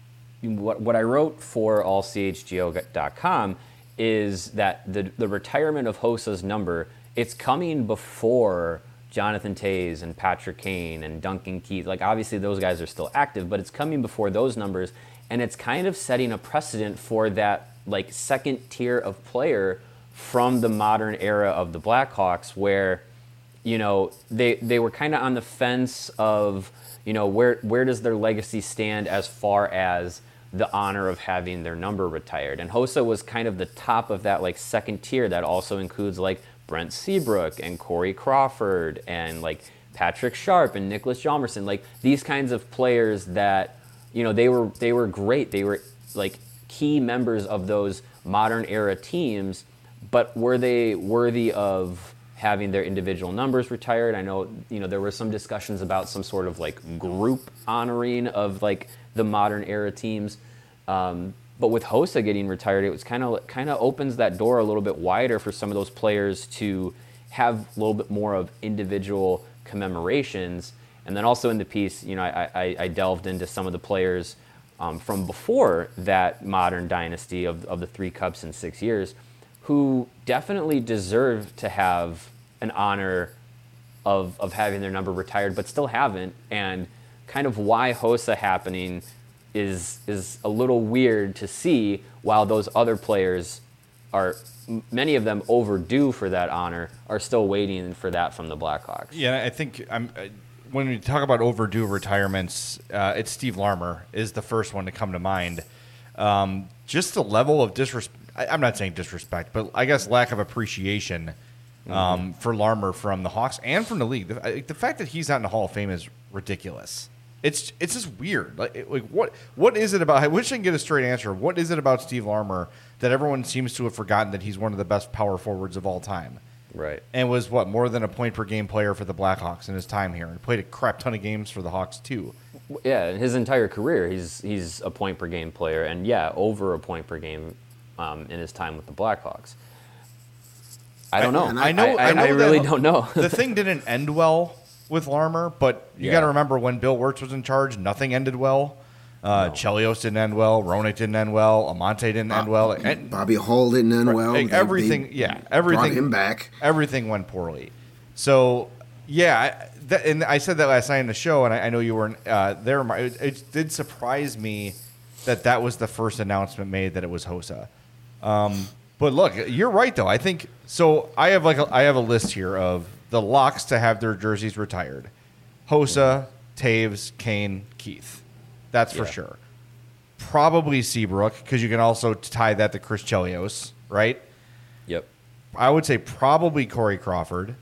Speaker 2: what what I wrote for all c h g o dot com is that the the retirement of Hossa's number, it's coming before Jonathan Toews and Patrick Kane and Duncan Keith. Like, obviously those guys are still active, but it's coming before those numbers. And it's kind of setting a precedent for that, like, second tier of player from the modern era of the Blackhawks, where, you know, they they were kind of on the fence of, you know, where where does their legacy stand as far as the honor of having their number retired. And Hossa was kind of the top of that, like, second tier that also includes, like, Brent Seabrook and Corey Crawford and, like, Patrick Sharp and Nicholas Hjalmarsson. Like, these kinds of players that, you know, they were they were great. They were, like, key members of those modern era teams, but were they worthy of having their individual numbers retired? I know, you know, there were some discussions about some sort of, like, group honoring of, like, the modern era teams. Um, but with Hossa getting retired, it was kind of kind of opens that door a little bit wider for some of those players to have a little bit more of individual commemorations. And then also in the piece, you know, I, I, I delved into some of the players um, from before that modern dynasty of, of the three cups in six years who definitely deserve to have an honor of, of having their number retired, but still haven't. And kind of why Hossa happening is is a little weird to see, while those other players are, many of them overdue for that honor, are still waiting for that from the Blackhawks.
Speaker 1: Yeah, I think I'm, uh, when we talk about overdue retirements, uh, it's Steve Larmer is the first one to come to mind. Um, just the level of disrespect, I'm not saying disrespect, but I guess lack of appreciation um, mm-hmm. for Larmer from the Hawks and from the league. The, the fact that he's not in the Hall of Fame is ridiculous. It's it's just weird. Like it- like what what is it about? I wish I could get a straight answer. What is it about Steve Larmer that everyone seems to have forgotten that he's one of the best power forwards of all time?
Speaker 2: Right.
Speaker 1: And was what more than a point per game player for the Blackhawks in his time here, and played a crap ton of games for the Hawks too.
Speaker 2: Yeah, in his entire career, he's he's a point per game player, and yeah, over a point per game um, in his time with the Blackhawks. I don't know.
Speaker 3: and
Speaker 1: I know. I,
Speaker 2: I,
Speaker 1: know
Speaker 2: I really
Speaker 1: that
Speaker 2: don't know.
Speaker 1: The thing didn't end well with Larmer, but you
Speaker 2: Yeah.
Speaker 1: got to remember when Bill Wirtz was in charge, nothing ended well. Uh,
Speaker 2: No.
Speaker 1: Chelios didn't end well. Roenick didn't end well. Amante didn't end well. And,
Speaker 3: Bobby Hull didn't end well.
Speaker 1: like,
Speaker 3: They-
Speaker 1: everything,
Speaker 3: they
Speaker 1: yeah,
Speaker 3: brought
Speaker 1: everything.
Speaker 3: him back.
Speaker 1: Everything went poorly. So, yeah, I, that, and I said that last night in the show, and I, I know you weren't uh, there. Mar- It, it did surprise me that that was the first announcement made that it was Hossa. Um, but look, you're right though. I think so. I have like a, I have a list here of the locks to have their jerseys retired: Hossa, Taves, Kane, Keith. That's for
Speaker 2: Yeah.
Speaker 1: sure. Probably Seabrook, because you can also tie that to Chris Chelios, right?
Speaker 2: Yep.
Speaker 1: I would say probably Corey Crawford.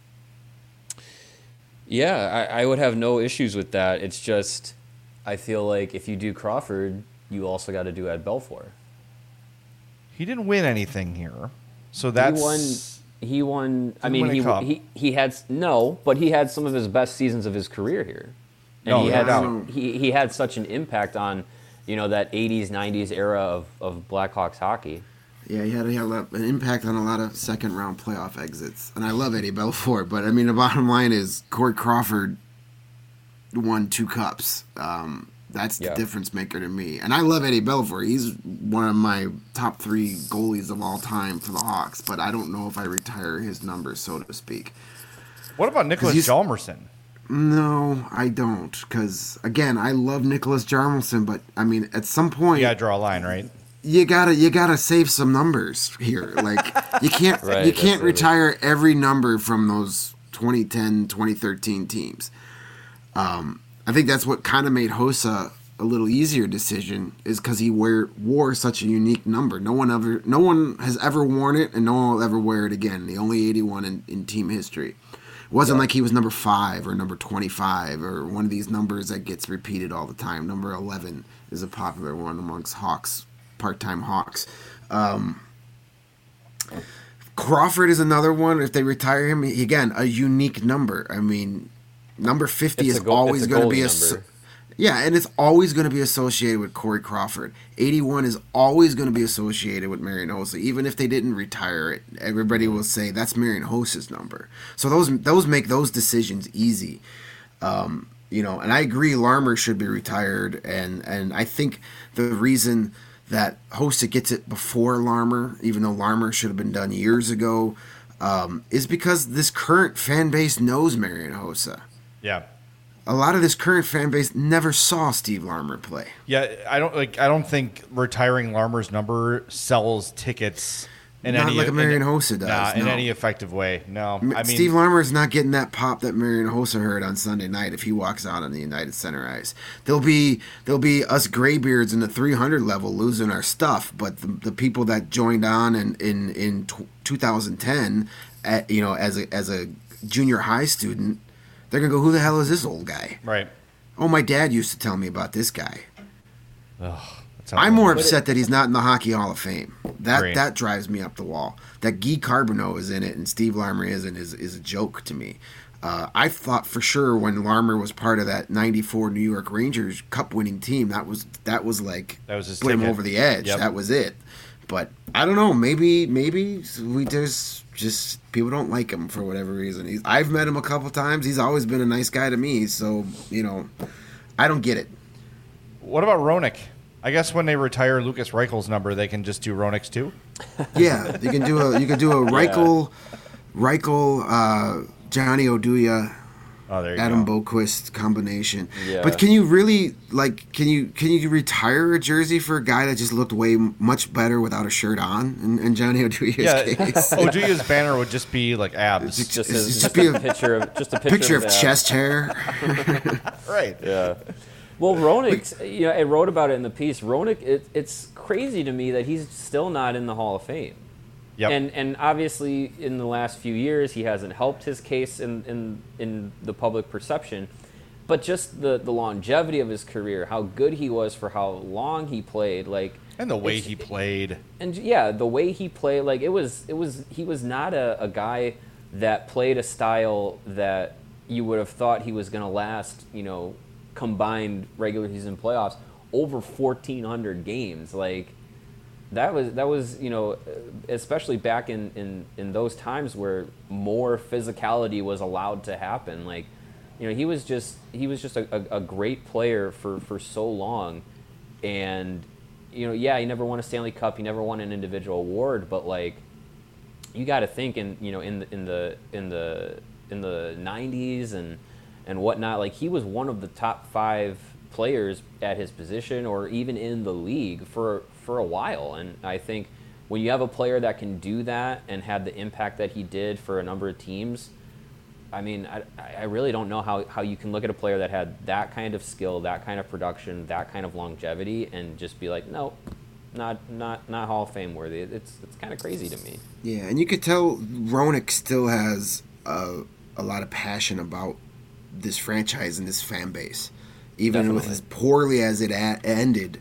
Speaker 2: Yeah, I, I would have no issues with that. It's just, I feel like if you do Crawford, you also got to do Ed Belfour.
Speaker 1: He didn't win anything here, so that's
Speaker 2: he won. He won. I
Speaker 1: Didn't
Speaker 2: mean,
Speaker 1: win a
Speaker 2: he,
Speaker 1: cup.
Speaker 2: he he had no, but he had some of his best seasons of his career here, and
Speaker 1: No,
Speaker 2: he
Speaker 1: no
Speaker 2: had
Speaker 1: doubt.
Speaker 2: he he had such an impact on, you know, that eighties nineties era of, of Blackhawks hockey.
Speaker 3: Yeah, he had, he had a lot- an impact on a lot of second round playoff exits. And I love Eddie Belfour, but I mean, the bottom line is Corey Crawford won two cups. Um, that's the
Speaker 2: Yeah.
Speaker 3: difference maker to me. And I love Eddie Belfour. He's one of my top three goalies of all time for the Hawks, but I don't know if I retire his numbers, so to speak.
Speaker 1: What about Nicholas
Speaker 3: he's-
Speaker 1: Hjalmarsson?
Speaker 3: No, I don't. Because, again, I love Nicholas Jarmelson, but, I mean, at some point...
Speaker 1: You gotta draw a line, right?
Speaker 3: you gotta you gotta save some numbers here. Like you can't
Speaker 2: Right,
Speaker 3: you
Speaker 2: that's
Speaker 3: can't
Speaker 2: it.
Speaker 3: retire every number from those twenty ten, twenty thirteen teams. Um, I think that's what kind of made Hossa a little easier decision is because he wear, wore such a unique number. No one ever no one has ever worn it, and no one will ever wear it again. The only eighty-one in, in team history. It wasn't like he was number five or number twenty-five or one of these numbers that gets repeated all the time. Number eleven is a popular one amongst Hawks. Part-time Hawks. Um, Crawford is another one. If they retire him, again, a unique number. I mean, number fifty
Speaker 2: It's
Speaker 3: is
Speaker 2: a goal-
Speaker 3: always
Speaker 2: it's a
Speaker 3: going to
Speaker 2: goalie
Speaker 3: be a
Speaker 2: number.
Speaker 3: yeah, and it's always going to be associated with Corey Crawford. eighty-one is always going to be associated with Marian Hossa, even if they didn't retire it. Everybody will say that's Marian Hossa's number. So those those make those decisions easy. Um, you know, and I agree, Larmer should be retired, and and I think the reason that Hossa gets it before Larmer, even though Larmer should have been done years ago, um, is because this current fan base knows Marian Hossa.
Speaker 1: Yeah.
Speaker 3: A lot of this current fan base never saw Steve Larmer play.
Speaker 1: Yeah, I don't like. I don't think retiring Larmer's number sells tickets in
Speaker 3: Not
Speaker 1: any
Speaker 3: like a Marian
Speaker 1: in,
Speaker 3: Hossa does,
Speaker 1: Nah, in
Speaker 3: no.
Speaker 1: any effective way. No, I mean
Speaker 3: Steve Larmer is not getting that pop that Marian Hossa heard on Sunday night if he walks out on the United Center ice. There'll be there'll be us graybeards in the three hundred level losing our stuff, but the, the people that joined on in in in tw- two thousand ten, at, you know, as a as a junior high student, they're gonna go, who the hell is this old guy?
Speaker 1: right.
Speaker 3: Oh, my dad used to tell me about this guy.
Speaker 1: Ugh, that's how
Speaker 3: I'm more
Speaker 2: But
Speaker 3: upset
Speaker 2: it-
Speaker 3: that he's not in the Hockey Hall of Fame. That
Speaker 1: Great.
Speaker 3: that drives me up the wall. That Guy Carbonneau is in it and Steve Larmer isn't is is a joke to me. Uh, I thought for sure when Larmer was part of that ninety-four New York Rangers Cup winning team, that was that was like
Speaker 1: That was his
Speaker 3: put him
Speaker 1: ticket.
Speaker 3: over the edge.
Speaker 1: Yep.
Speaker 3: That was it. But I don't know. Maybe maybe we there's just people don't like him for whatever reason. He's, I've met him a couple times. He's always been a nice guy to me. So you know, I don't get it.
Speaker 1: What about Roenick? I guess when they retire Lucas Reichel's number, they can just do Roenick's too.
Speaker 3: Yeah, you can do a you can do a Reichel, Reichel, uh, Johnny Oduya,
Speaker 1: Oh, there you
Speaker 3: Adam
Speaker 1: go.
Speaker 3: Boquist combination.
Speaker 2: Yeah.
Speaker 3: But can you really like can you can you retire a jersey for a guy that just looked way m- much better without a shirt on? In, in Johnny Oduya's
Speaker 1: Yeah,
Speaker 3: case,
Speaker 1: Oduya's banner would just be like abs.
Speaker 3: It's
Speaker 2: Just,
Speaker 3: It's
Speaker 2: as,
Speaker 3: just
Speaker 2: just
Speaker 3: be
Speaker 2: a
Speaker 3: a
Speaker 2: picture of just a picture,
Speaker 3: picture of
Speaker 2: that.
Speaker 3: chest hair.
Speaker 1: Right.
Speaker 2: Yeah. Well, Roenick, you know, I wrote about it in the piece. Roenick, it, it's crazy to me that he's still not in the Hall of Fame.
Speaker 1: Yep.
Speaker 2: And and obviously, in the last few years, he hasn't helped his case in in, in the public perception. but just the, the longevity of his career, how good he was for how long he played, like
Speaker 1: and the way
Speaker 2: it's-
Speaker 1: he played.
Speaker 2: and yeah, the way he played, like it was, it was, he was not a, a guy that played a style that you would have thought he was going to last, you know, combined regular season playoffs over fourteen hundred games. Like that was, that was, you know, especially back in, in, in those times where more physicality was allowed to happen. Like, you know, he was just, he was just a, a, a great player for, for so long. And, you know, yeah, he never won a Stanley Cup. He never won an individual award, but like, you got to think in, you know, in the, in the, in the, in the nineties and, and whatnot, like he was one of the top five players at his position or even in the league for, for a while. And I think when you have a player that can do that and had the impact that he did for a number of teams, I mean, I, I really don't know how, how you can look at a player that had that kind of skill, that kind of production, that kind of longevity, and just be like, no, not not not Hall of Fame worthy. It's it's kind of crazy to me.
Speaker 3: Yeah, and you could tell Roenick still has a, a lot of passion about this franchise and this fan base. Even with
Speaker 2: Definitely.
Speaker 3: as poorly as it a- ended,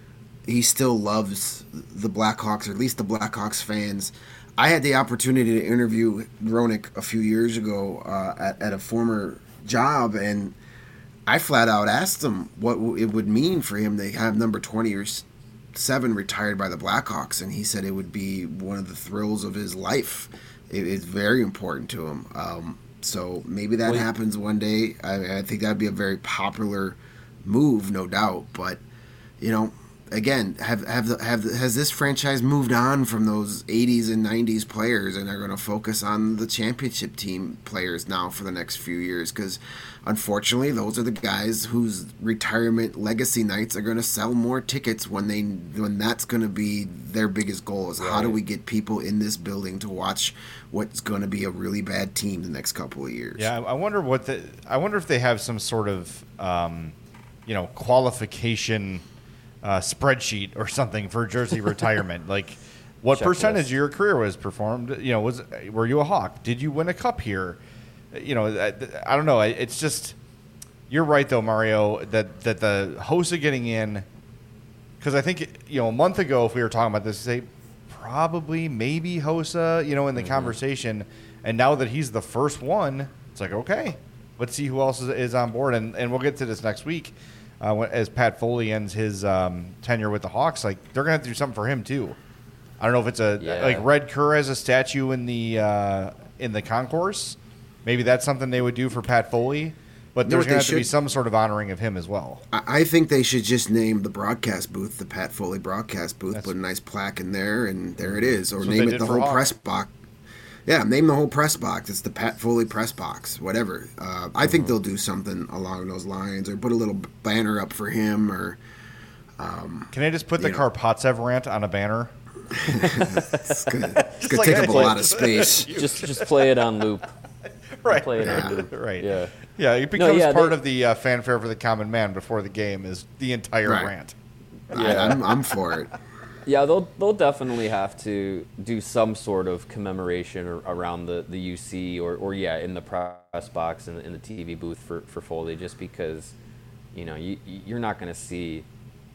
Speaker 3: he still loves the Blackhawks, or at least the Blackhawks fans. I had the opportunity to interview Roenick a few years ago uh, at, at a former job, and I flat out asked him what it would mean for him to have number twenty or seven retired by the Blackhawks, and he said it would be one of the thrills of his life. It, it's very important to him. Um, so maybe that
Speaker 2: Well,
Speaker 3: happens one day. I, I think that would be a very popular move, no doubt. But you know, again, have have the, have the, has this franchise moved on from those eighties and nineties players, and are going to focus on the championship team players now for the next few years? Because unfortunately, those are the guys whose retirement legacy nights are going to sell more tickets when they when that's going to be their biggest goal. Is how do
Speaker 2: Right.
Speaker 3: we get people in this building to watch what's going to be a really bad team the next couple of years?
Speaker 1: Yeah, I I wonder what the. I wonder if they have some sort of, um, you know, qualification uh, spreadsheet or something for jersey retirement. Like, what
Speaker 2: Checklist.
Speaker 1: percentage of your career was performed? You know, was were you a Hawk? Did you win a cup here? You know, I, I don't know. It's just you're right though, Mario. That that the hosts are getting in because I think you know a month ago if we were talking about this, say probably maybe Hossa, you know, in the
Speaker 2: Mm-hmm.
Speaker 1: conversation, and now that he's the first one, it's like okay, let's see who else is, is on board, and and we'll get to this next week uh, when, as Pat Foley ends his um, tenure with the Hawks. Like they're gonna have to do something for him too. I don't know if it's a
Speaker 2: Yeah.
Speaker 1: like Red Kerr has a statue in the uh, in the concourse. Maybe that's something they would do for Pat Foley, but
Speaker 3: You know
Speaker 1: there's
Speaker 3: what
Speaker 1: going to
Speaker 3: they
Speaker 1: have to be
Speaker 3: should-
Speaker 1: some sort of honoring of him as well.
Speaker 3: I I think they should just name the broadcast booth the Pat Foley broadcast booth,
Speaker 1: That's-
Speaker 3: put a nice plaque in there, and there it is. Or
Speaker 1: That's what
Speaker 3: name
Speaker 1: they
Speaker 3: it
Speaker 1: did
Speaker 3: the
Speaker 1: for
Speaker 3: whole
Speaker 1: Hawk.
Speaker 3: press box. Yeah, name the whole press box. It's the Pat Foley press box, whatever. Uh, I think they'll do something along those lines, or put a little banner up for him, or
Speaker 1: Can I just put the
Speaker 3: You know.
Speaker 1: Karpatsev rant on a banner?
Speaker 3: it's gonna, it's gonna
Speaker 1: like
Speaker 3: take
Speaker 1: I
Speaker 3: up a
Speaker 1: play-
Speaker 3: lot of space.
Speaker 2: Just just play it on loop.
Speaker 1: Right.
Speaker 2: Play it
Speaker 3: Yeah.
Speaker 2: on loop.
Speaker 1: Right.
Speaker 2: Yeah.
Speaker 1: Yeah, it becomes
Speaker 2: yeah,
Speaker 1: part
Speaker 2: they-
Speaker 1: of the uh, fanfare for the common man before the game is the entire
Speaker 3: Right.
Speaker 1: rant.
Speaker 3: I, I'm, I'm for it.
Speaker 2: Yeah, they'll they'll definitely have to do some sort of commemoration or, around the, the U C or, or yeah in the press box and in, in the T V booth for, for Foley, just because you know you you're not going to see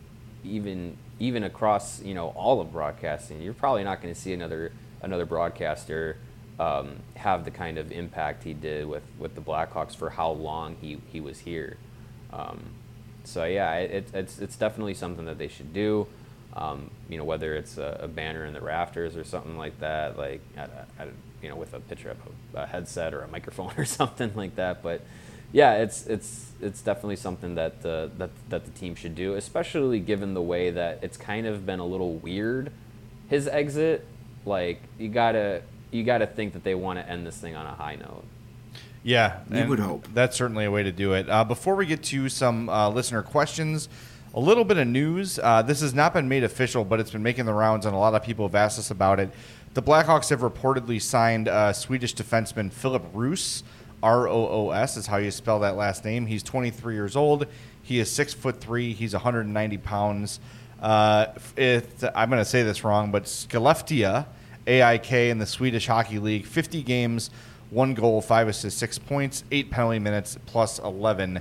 Speaker 2: even even across you know all of broadcasting, you're probably not going to see another another broadcaster um, have the kind of impact he did with, with the Blackhawks for how long he, he was here. Um, so yeah, it, it's it's definitely something that they should do. Um, you know, whether it's a, a banner in the rafters or something like that, like I, I, you know, with a picture of a, a headset or a microphone or something like that. But yeah, it's it's it's definitely something that the that that the team should do, especially given the way that it's kind of been a little weird. His exit, like you gotta you gotta think that they want to end this thing on a high note.
Speaker 1: Yeah,
Speaker 3: You
Speaker 1: and
Speaker 3: would hope.
Speaker 1: That's certainly a way to do it. Uh, before we get to some uh, listener questions, a little bit of news. Uh, this has not been made official, but it's been making the rounds, and a lot of people have asked us about it. The Blackhawks have reportedly signed uh, Swedish defenseman Philip Roos. R O O S is how you spell that last name. He's twenty-three years old. He is six foot three. He's one hundred ninety pounds. Uh, it, I'm going to say this wrong, but Skellefteå, A I K in the Swedish Hockey League, fifty games, one goal, five assists, six points, eight penalty minutes, plus eleven.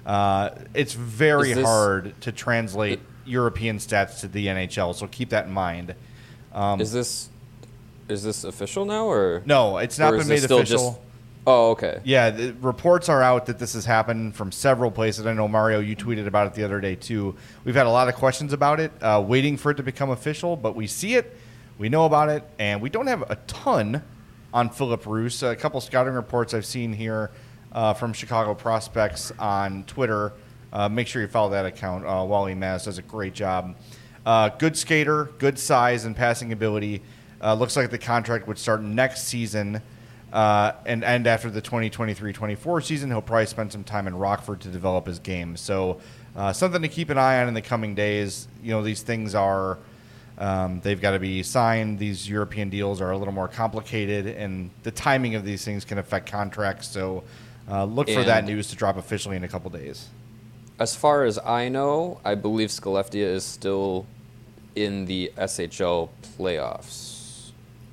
Speaker 1: Uh, it's very
Speaker 2: Is this-
Speaker 1: hard to translate European stats to the N H L, so keep that in mind. Um,
Speaker 2: is this is this official now, or
Speaker 1: no, it's not
Speaker 2: or
Speaker 1: been
Speaker 2: is
Speaker 1: made
Speaker 2: this still
Speaker 1: official.
Speaker 2: just- oh, okay.
Speaker 1: Yeah, the reports are out that this has happened from several places. I know, Mario, you tweeted about it the other day, too. We've had a lot of questions about it, uh, waiting for it to become official, but we see it, we know about it, and we don't have a ton on Philip Roos. A couple scouting reports I've seen here uh, from Chicago Prospects on Twitter. Uh, make sure you follow that account. Uh, Wally Maz does a great job. Uh, good skater, good size and passing ability. Uh, looks like the contract would start next season uh, and end after the twenty twenty-three twenty-four season. He'll probably spend some time in Rockford to develop his game. So uh, something to keep an eye on in the coming days. You know, these things are, um, they've got to be signed. These European deals are a little more complicated, and the timing of these things can affect contracts. So uh, look for that
Speaker 2: And-
Speaker 1: news to drop officially in a couple days.
Speaker 2: As far as I know, I believe Skellefteå is still in the S H L playoffs,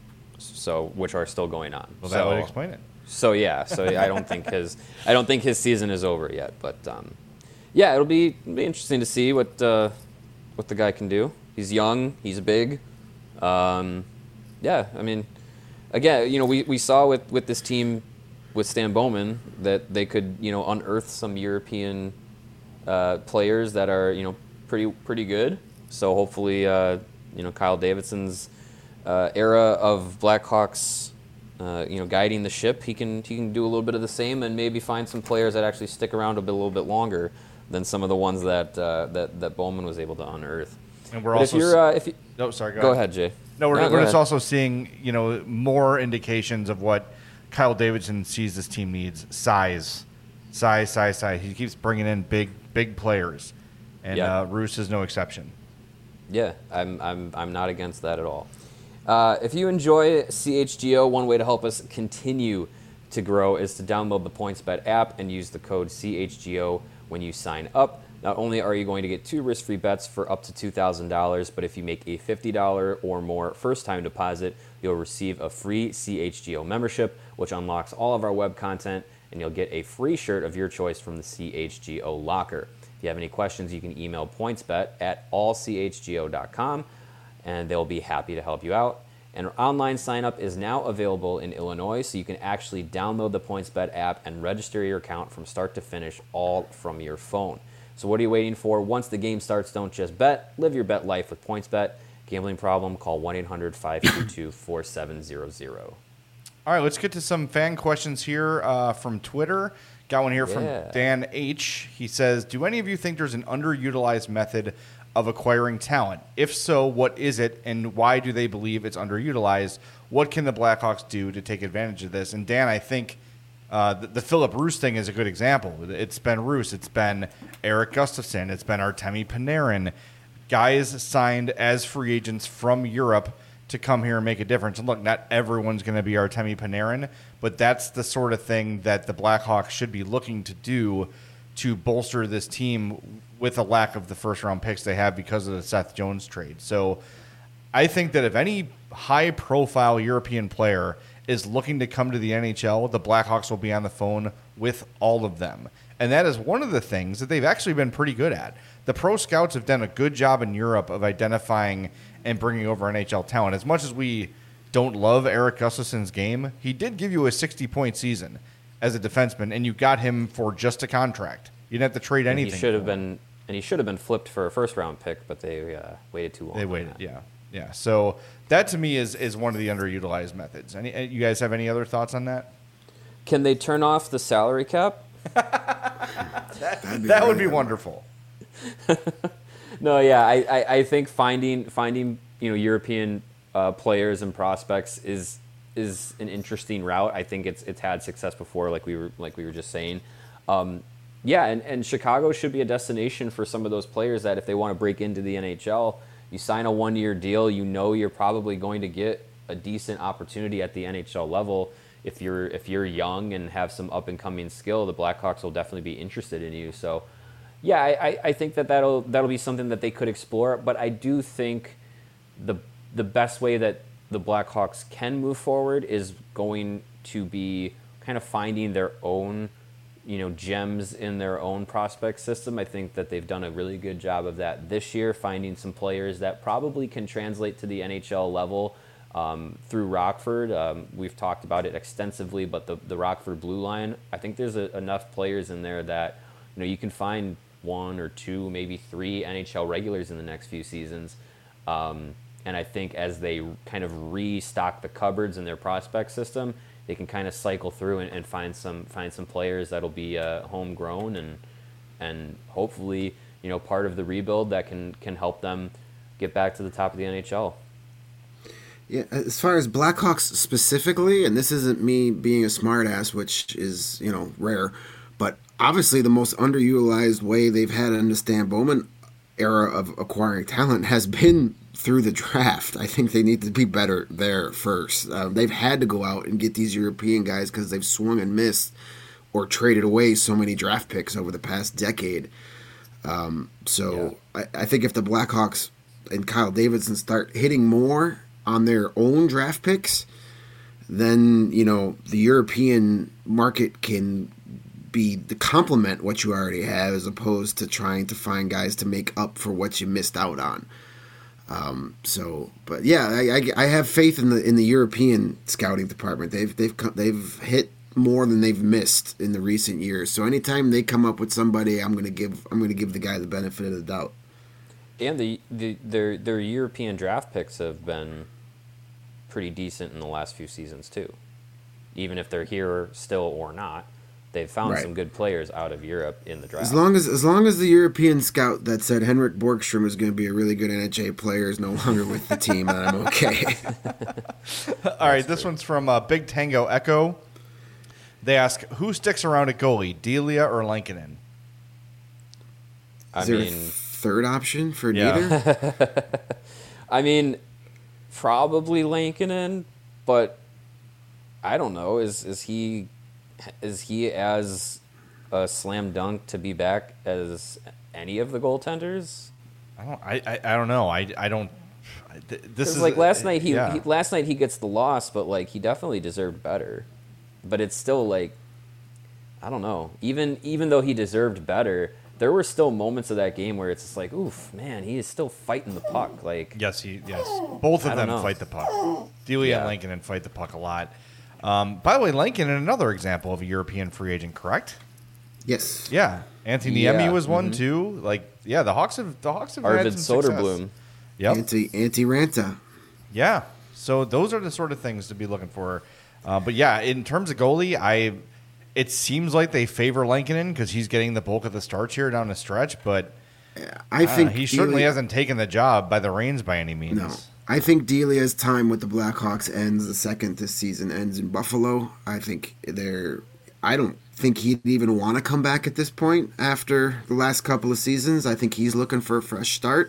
Speaker 2: so which are still going on.
Speaker 1: Well,
Speaker 2: so,
Speaker 1: that would explain it.
Speaker 2: So yeah, so I don't think his I don't think his season is over yet, but um, yeah, it'll be, it'll be interesting to see what uh, what the guy can do. He's young, he's big. Um, yeah, I mean, again, you know, we, we saw with, with this team with Stan Bowman that they could, you know, unearth some European uh, players that are, you know, pretty pretty good. So hopefully, uh, you know, Kyle Davidson's uh, era of Blackhawks, uh, you know, guiding the ship, he can he can do a little bit of the same and maybe find some players that actually stick around a, bit, a little bit longer than some of the ones that uh, that that Bowman was able to unearth.
Speaker 1: And we're
Speaker 2: But
Speaker 1: also
Speaker 2: if you're, uh, if you,
Speaker 1: no, sorry, go,
Speaker 2: go
Speaker 1: ahead.
Speaker 2: ahead, Jay.
Speaker 1: No, we're,
Speaker 2: No, go
Speaker 1: we're just
Speaker 2: ahead.
Speaker 1: also seeing, you know, more indications of what Kyle Davidson sees this team needs. Size. Size, size, size. He keeps bringing in big, big players. And
Speaker 2: Yeah.
Speaker 1: uh, Roos is no exception.
Speaker 2: Yeah, I'm, I'm, I'm not against that at all. Uh, if you enjoy C H G O, one way to help us continue to grow is to download the PointsBet app and use the code C H G O when you sign up. Not only are you going to get two risk-free bets for up to two thousand dollars, but if you make a fifty dollars or more first-time deposit, you'll receive a free C H G O membership, which unlocks all of our web content, and you'll get a free shirt of your choice from the C H G O locker. If you have any questions, you can email pointsbet at all c h g o dot com, and they'll be happy to help you out. And online sign-up is now available in Illinois, so you can actually download the PointsBet app and register your account from start to finish, all from your phone. So what are you waiting for? Once the game starts, don't just bet. Live your bet life with PointsBet. Gambling problem? Call one eight hundred five two two four seven zero zero.
Speaker 1: All right, let's get to some fan questions here uh, from Twitter. Got one here
Speaker 2: Yeah.
Speaker 1: from Dan H. He says, do any of you think there's an underutilized method of acquiring talent? If so, what is it, and why do they believe it's underutilized? What can the Blackhawks do to take advantage of this? And Dan, I think uh, the, the Philip Roos thing is a good example. It's been Roos. It's been Eric Gustafsson. It's been Artemi Panarin. Guys signed as free agents from Europe to come here and make a difference. And look, not everyone's going to be Artemi Panarin, but that's the sort of thing that the Blackhawks should be looking to do to bolster this team with a lack of the first-round picks they have because of the Seth Jones trade. So I think that if any high-profile European player is looking to come to the N H L, the Blackhawks will be on the phone with all of them. And that is one of the things that they've actually been pretty good at. The pro scouts have done a good job in Europe of identifying and bringing over N H L talent. As much as we don't love Eric Gustafsson's game, he did give you a sixty-point season as a defenseman, and you got him for just a contract. You didn't have to trade
Speaker 2: And
Speaker 1: anything.
Speaker 2: he should have
Speaker 1: for him.
Speaker 2: been, and he should have been flipped for a first-round pick, but they uh, waited too long.
Speaker 1: They
Speaker 2: on
Speaker 1: waited,
Speaker 2: that.
Speaker 1: yeah, yeah. So that to me is is one of the underutilized methods. Any, you guys have any other thoughts on that?
Speaker 2: Can they turn off the salary cap?
Speaker 3: That'd be
Speaker 1: That would be
Speaker 3: great.
Speaker 1: wonderful.
Speaker 2: No, yeah, I, I, I think finding finding you know European uh, players and prospects is is an interesting route. I think it's it's had success before, like we were like we were just saying. Um, yeah, and, and Chicago should be a destination for some of those players that if they want to break into the N H L, you sign a one year deal, you know you're probably going to get a decent opportunity at the N H L level. If you're if you're young and have some up and coming skill, the Blackhawks will definitely be interested in you. So. Yeah, I, I think that that'll that'll be something that they could explore, but I do think the the best way that the Blackhawks can move forward is going to be kind of finding their own you know, gems in their own prospect system. I think that they've done a really good job of that this year, finding some players that probably can translate to the N H L level um, through Rockford. Um, we've talked about it extensively, but the, the Rockford Blue Line, I think there's a, enough players in there that, you know, you can find one or two, maybe three N H L regulars in the next few seasons. Um, and I think as they kind of restock the cupboards in their prospect system, they can kind of cycle through and, and find some find some players that'll be uh, homegrown and and hopefully, you know, part of the rebuild that can can help them get back to the top of the N H L.
Speaker 3: Yeah, as far as Blackhawks specifically, and this isn't me being a smartass, which is, you know, rare, but obviously the most underutilized way they've had in the Stan Bowman era of acquiring talent has been through the draft. I think they need to be better there first. Uh, they've had to go out and get these European guys because they've swung and missed or traded away so many draft picks over the past decade. Um, so yeah. I, I think if the Blackhawks and Kyle Davidson start hitting more on their own draft picks, then, you know, the European market can be the complement what you already have as opposed to trying to find guys to make up for what you missed out on. Um, so, but yeah, I, I, I have faith in the in the European scouting department. They've they've they've hit more than they've missed in the recent years. So anytime they come up with somebody, I'm gonna give I'm gonna give the guy the benefit of the doubt.
Speaker 2: And the, the their their European draft picks have been pretty decent in the last few seasons too. Even if they're here still or not, they've found
Speaker 3: Right.
Speaker 2: some good players out of Europe in the draft.
Speaker 3: As long as as long as the European scout that said Henrik Borgstrom is going to be a really good N H L player is no longer with the team, then I'm okay.
Speaker 1: All right, this one's from uh, Big Tango Echo. They ask, who sticks around at goalie, Delia or Lankinen?
Speaker 2: I
Speaker 3: Is there
Speaker 2: mean,
Speaker 3: a third option for
Speaker 1: Yeah.
Speaker 3: neither?
Speaker 2: I mean, probably Lankinen, but I don't know. Is is he is he as a slam dunk to be back as any of the goaltenders?
Speaker 1: I don't. I. I, I don't know. I. I don't. I- th- This
Speaker 2: Because
Speaker 1: is
Speaker 2: like last night he,
Speaker 1: yeah.
Speaker 2: he last night he gets the loss, but like he definitely deserved better. But it's still like I don't know. Even even though he deserved better, there were still moments of that game where it's just like, oof, man, he is still fighting the puck. Like
Speaker 1: Yes. He. Yes. Both
Speaker 2: I
Speaker 1: of
Speaker 2: don't
Speaker 1: them
Speaker 2: know.
Speaker 1: fight the puck. Delia
Speaker 2: Yeah.
Speaker 1: and Lankinen fight the puck a lot. Um, by the way, Lankinen, another example of a European free agent, correct?
Speaker 3: Yes.
Speaker 1: Yeah. Anthony
Speaker 2: Yeah,
Speaker 1: Niemi was one
Speaker 2: mhm.
Speaker 1: too. Like, yeah, the Hawks have the Hawks have had
Speaker 2: Arvid
Speaker 1: some success.
Speaker 2: Soderblom.
Speaker 1: Yep.
Speaker 3: Anti Anti Ranta.
Speaker 1: Yeah. So those are the sort of things to be looking for. Uh, but yeah, in terms of goalie, I it seems like they favor Lankinen because he's getting the bulk of the starts here down the stretch. But
Speaker 3: I
Speaker 1: uh,
Speaker 3: think
Speaker 1: he certainly
Speaker 3: Delia-
Speaker 1: hasn't taken the job by the reins by any means.
Speaker 3: No. I think Delia's time with the Blackhawks ends the second this season ends in Buffalo. I think they're. I don't think he'd even want to come back at this point after the last couple of seasons. I think he's looking for a fresh start.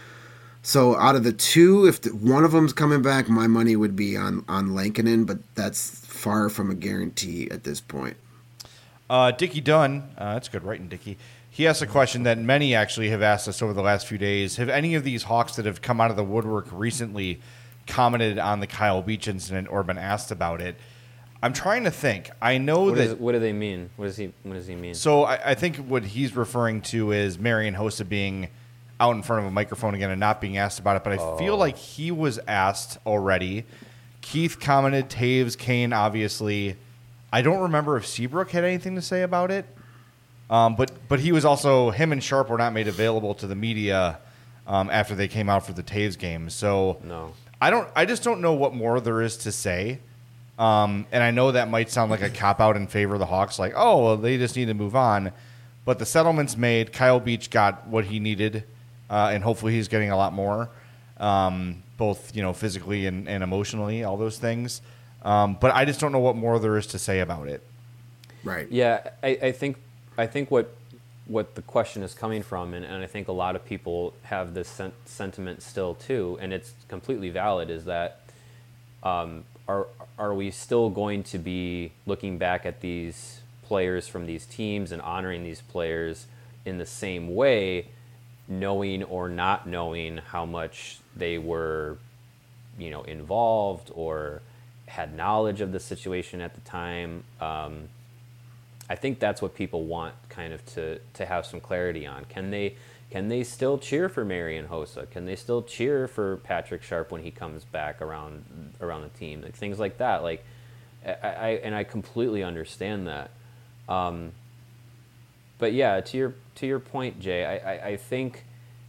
Speaker 3: So out of the two, if the, one of them's coming back, my money would be on on Lankinen, but that's far from a guarantee at this point.
Speaker 1: Uh, Dickie Dunn, uh, that's good writing, Dickie. He asked a question that many actually have asked us over the last few days. Have any of these Hawks that have come out of the woodwork recently commented on the Kyle Beach incident or been asked about it? I'm trying to think. I know
Speaker 2: What,
Speaker 1: that.
Speaker 2: is, what do they mean? What does he What does he mean?
Speaker 1: So I, I think what he's referring to is Marian Hossa being out in front of a microphone again and not being asked about it. But I feel like he was asked already. Keith commented, Taves, Kane, obviously. I don't remember if Seabrook had anything to say about it. Um, but but he was also, him and Sharp were not made available to the media um, after they came out for the Taves game. So
Speaker 2: No.
Speaker 1: I don't. I just don't know what more there is to say. Um, and I know that might sound like a cop out in favor of the Hawks, like, oh, well, they just need to move on. But the settlement's made. Kyle Beach got what he needed, uh, and hopefully he's getting a lot more, um, both you know physically and, and emotionally, all those things. Um, but I just don't know what more there is to say about it.
Speaker 3: Right.
Speaker 2: Yeah, I, I think I think what what the question is coming from, and, and I think a lot of people have this sen- sentiment still too, and it's completely valid, is that um, are are we still going to be looking back at these players from these teams and honoring these players in the same way, knowing or not knowing how much they were, you know, involved or had knowledge of the situation at the time? Um, I think that's what people want kind of to, to have some clarity on. Can they can they still cheer for Marian Hossa? Can they still cheer for Patrick Sharp when he comes back around around the team? Like, things like that. Like, I, I and I completely understand that. Um, but yeah, to your to your point, Jay, I, I, I think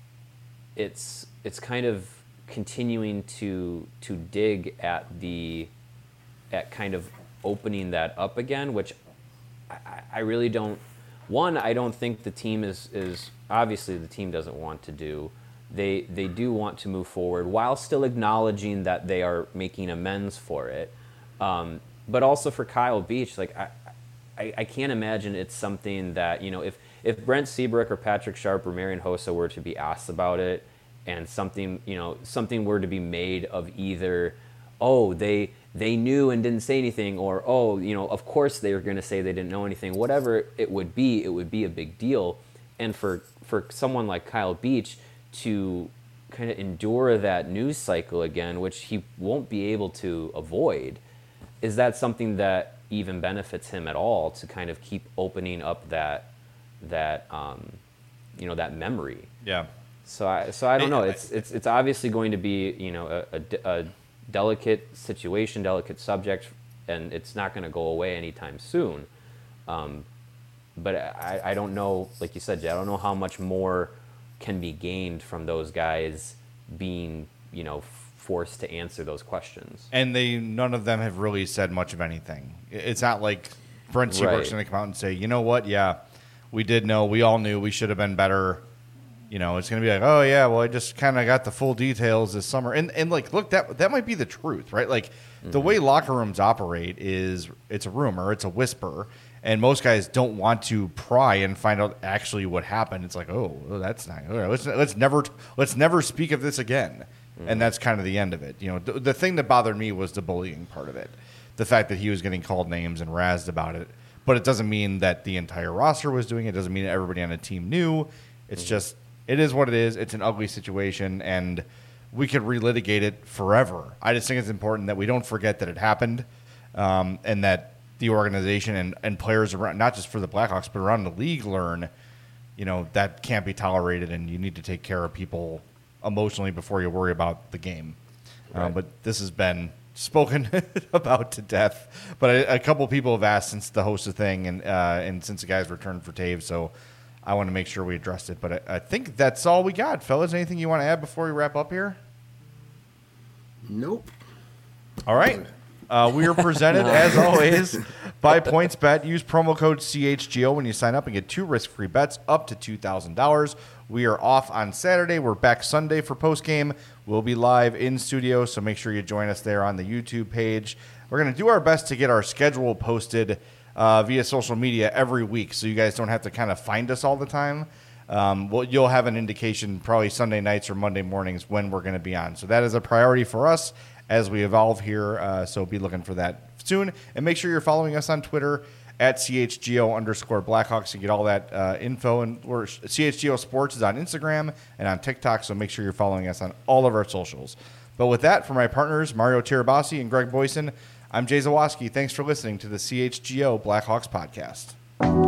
Speaker 2: it's it's kind of continuing to to dig at the at kind of opening that up again, which I, I really don't. One, I don't think the team is is obviously the team doesn't want to do. They they do want to move forward while still acknowledging that they are making amends for it. Um, but also for Kyle Beach, like I, I I can't imagine it's something that, you know, if if Brent Seabrook or Patrick Sharp or Marian Hossa were to be asked about it, and something, you know, something were to be made of either, oh, they they knew and didn't say anything, or, oh, you know, of course they were going to say they didn't know anything. Whatever it would be, it would be a big deal. And for, for someone like Kyle Beach to kind of endure that news cycle again, which he won't be able to avoid, is that something that even benefits him at all, to kind of keep opening up that, that um, you know, that memory?
Speaker 1: Yeah.
Speaker 2: So I, so I don't know. It's it's it's obviously going to be, you know, a, a, a delicate situation, delicate subject, and it's not going to go away anytime soon. Um, but I, I don't know, like you said, Jay, I don't know how much more can be gained from those guys being, you know, forced to answer those questions.
Speaker 1: And they none of them have really said much of anything. It's not like Brent Seabrook's
Speaker 2: Right.
Speaker 1: going to come out and say, you know what, yeah, we did know, we all knew we should have been better. You know, it's going to be like, oh, yeah, well, I just kind of got the full details this summer. And, and like, look, that that might be the truth, right? Like, mm-hmm. the way locker rooms operate is it's a rumor, it's a whisper, and most guys don't want to pry and find out actually what happened. It's like, oh, well, that's not good. Let's, let's, never, let's never speak of this again. Mm-hmm. And that's kind of the end of it. You know, the, the thing that bothered me was the bullying part of it, the fact that he was getting called names and razzed about it. But it doesn't mean that the entire roster was doing it. It doesn't mean that everybody on the team knew. It's mm-hmm. just... It is what it is. It's an ugly situation, and we could relitigate it forever. I just think it's important that we don't forget that it happened, um, and that the organization and, and players around, not just for the Blackhawks, but around the league, learn, you know, that can't be tolerated, and you need to take care of people emotionally before you worry about the game. Right. Um, but this has been spoken about to death. But a, a couple people have asked since the Hossa thing, and uh, and since the guys returned for Taves, so I want to make sure we addressed it. But I, I think that's all we got, fellas. Anything you want to add before we wrap up here?
Speaker 3: Nope.
Speaker 1: All right. Uh, we are presented, as always, by PointsBet. Use promo code C H G O when you sign up and get two risk-free bets up to two thousand dollars. We are off on Saturday. We're back Sunday for postgame. We'll be live in studio, so make sure you join us there on the YouTube page. We're going to do our best to get our schedule posted Uh, via social media every week, so you guys don't have to kind of find us all the time. Um, well, you'll have an indication probably Sunday nights or Monday mornings when we're going to be on. So that is a priority for us as we evolve here. Uh, so be looking for that soon. And make sure you're following us on Twitter at C H G O underscore Blackhawks to get all that uh, info. And we're, C H G O Sports is on Instagram and on TikTok, so make sure you're following us on all of our socials. But with that, for my partners, Mario Tirabassi and Greg Boyson, I'm Jay Zawoski. Thanks for listening to the C H G O Blackhawks podcast.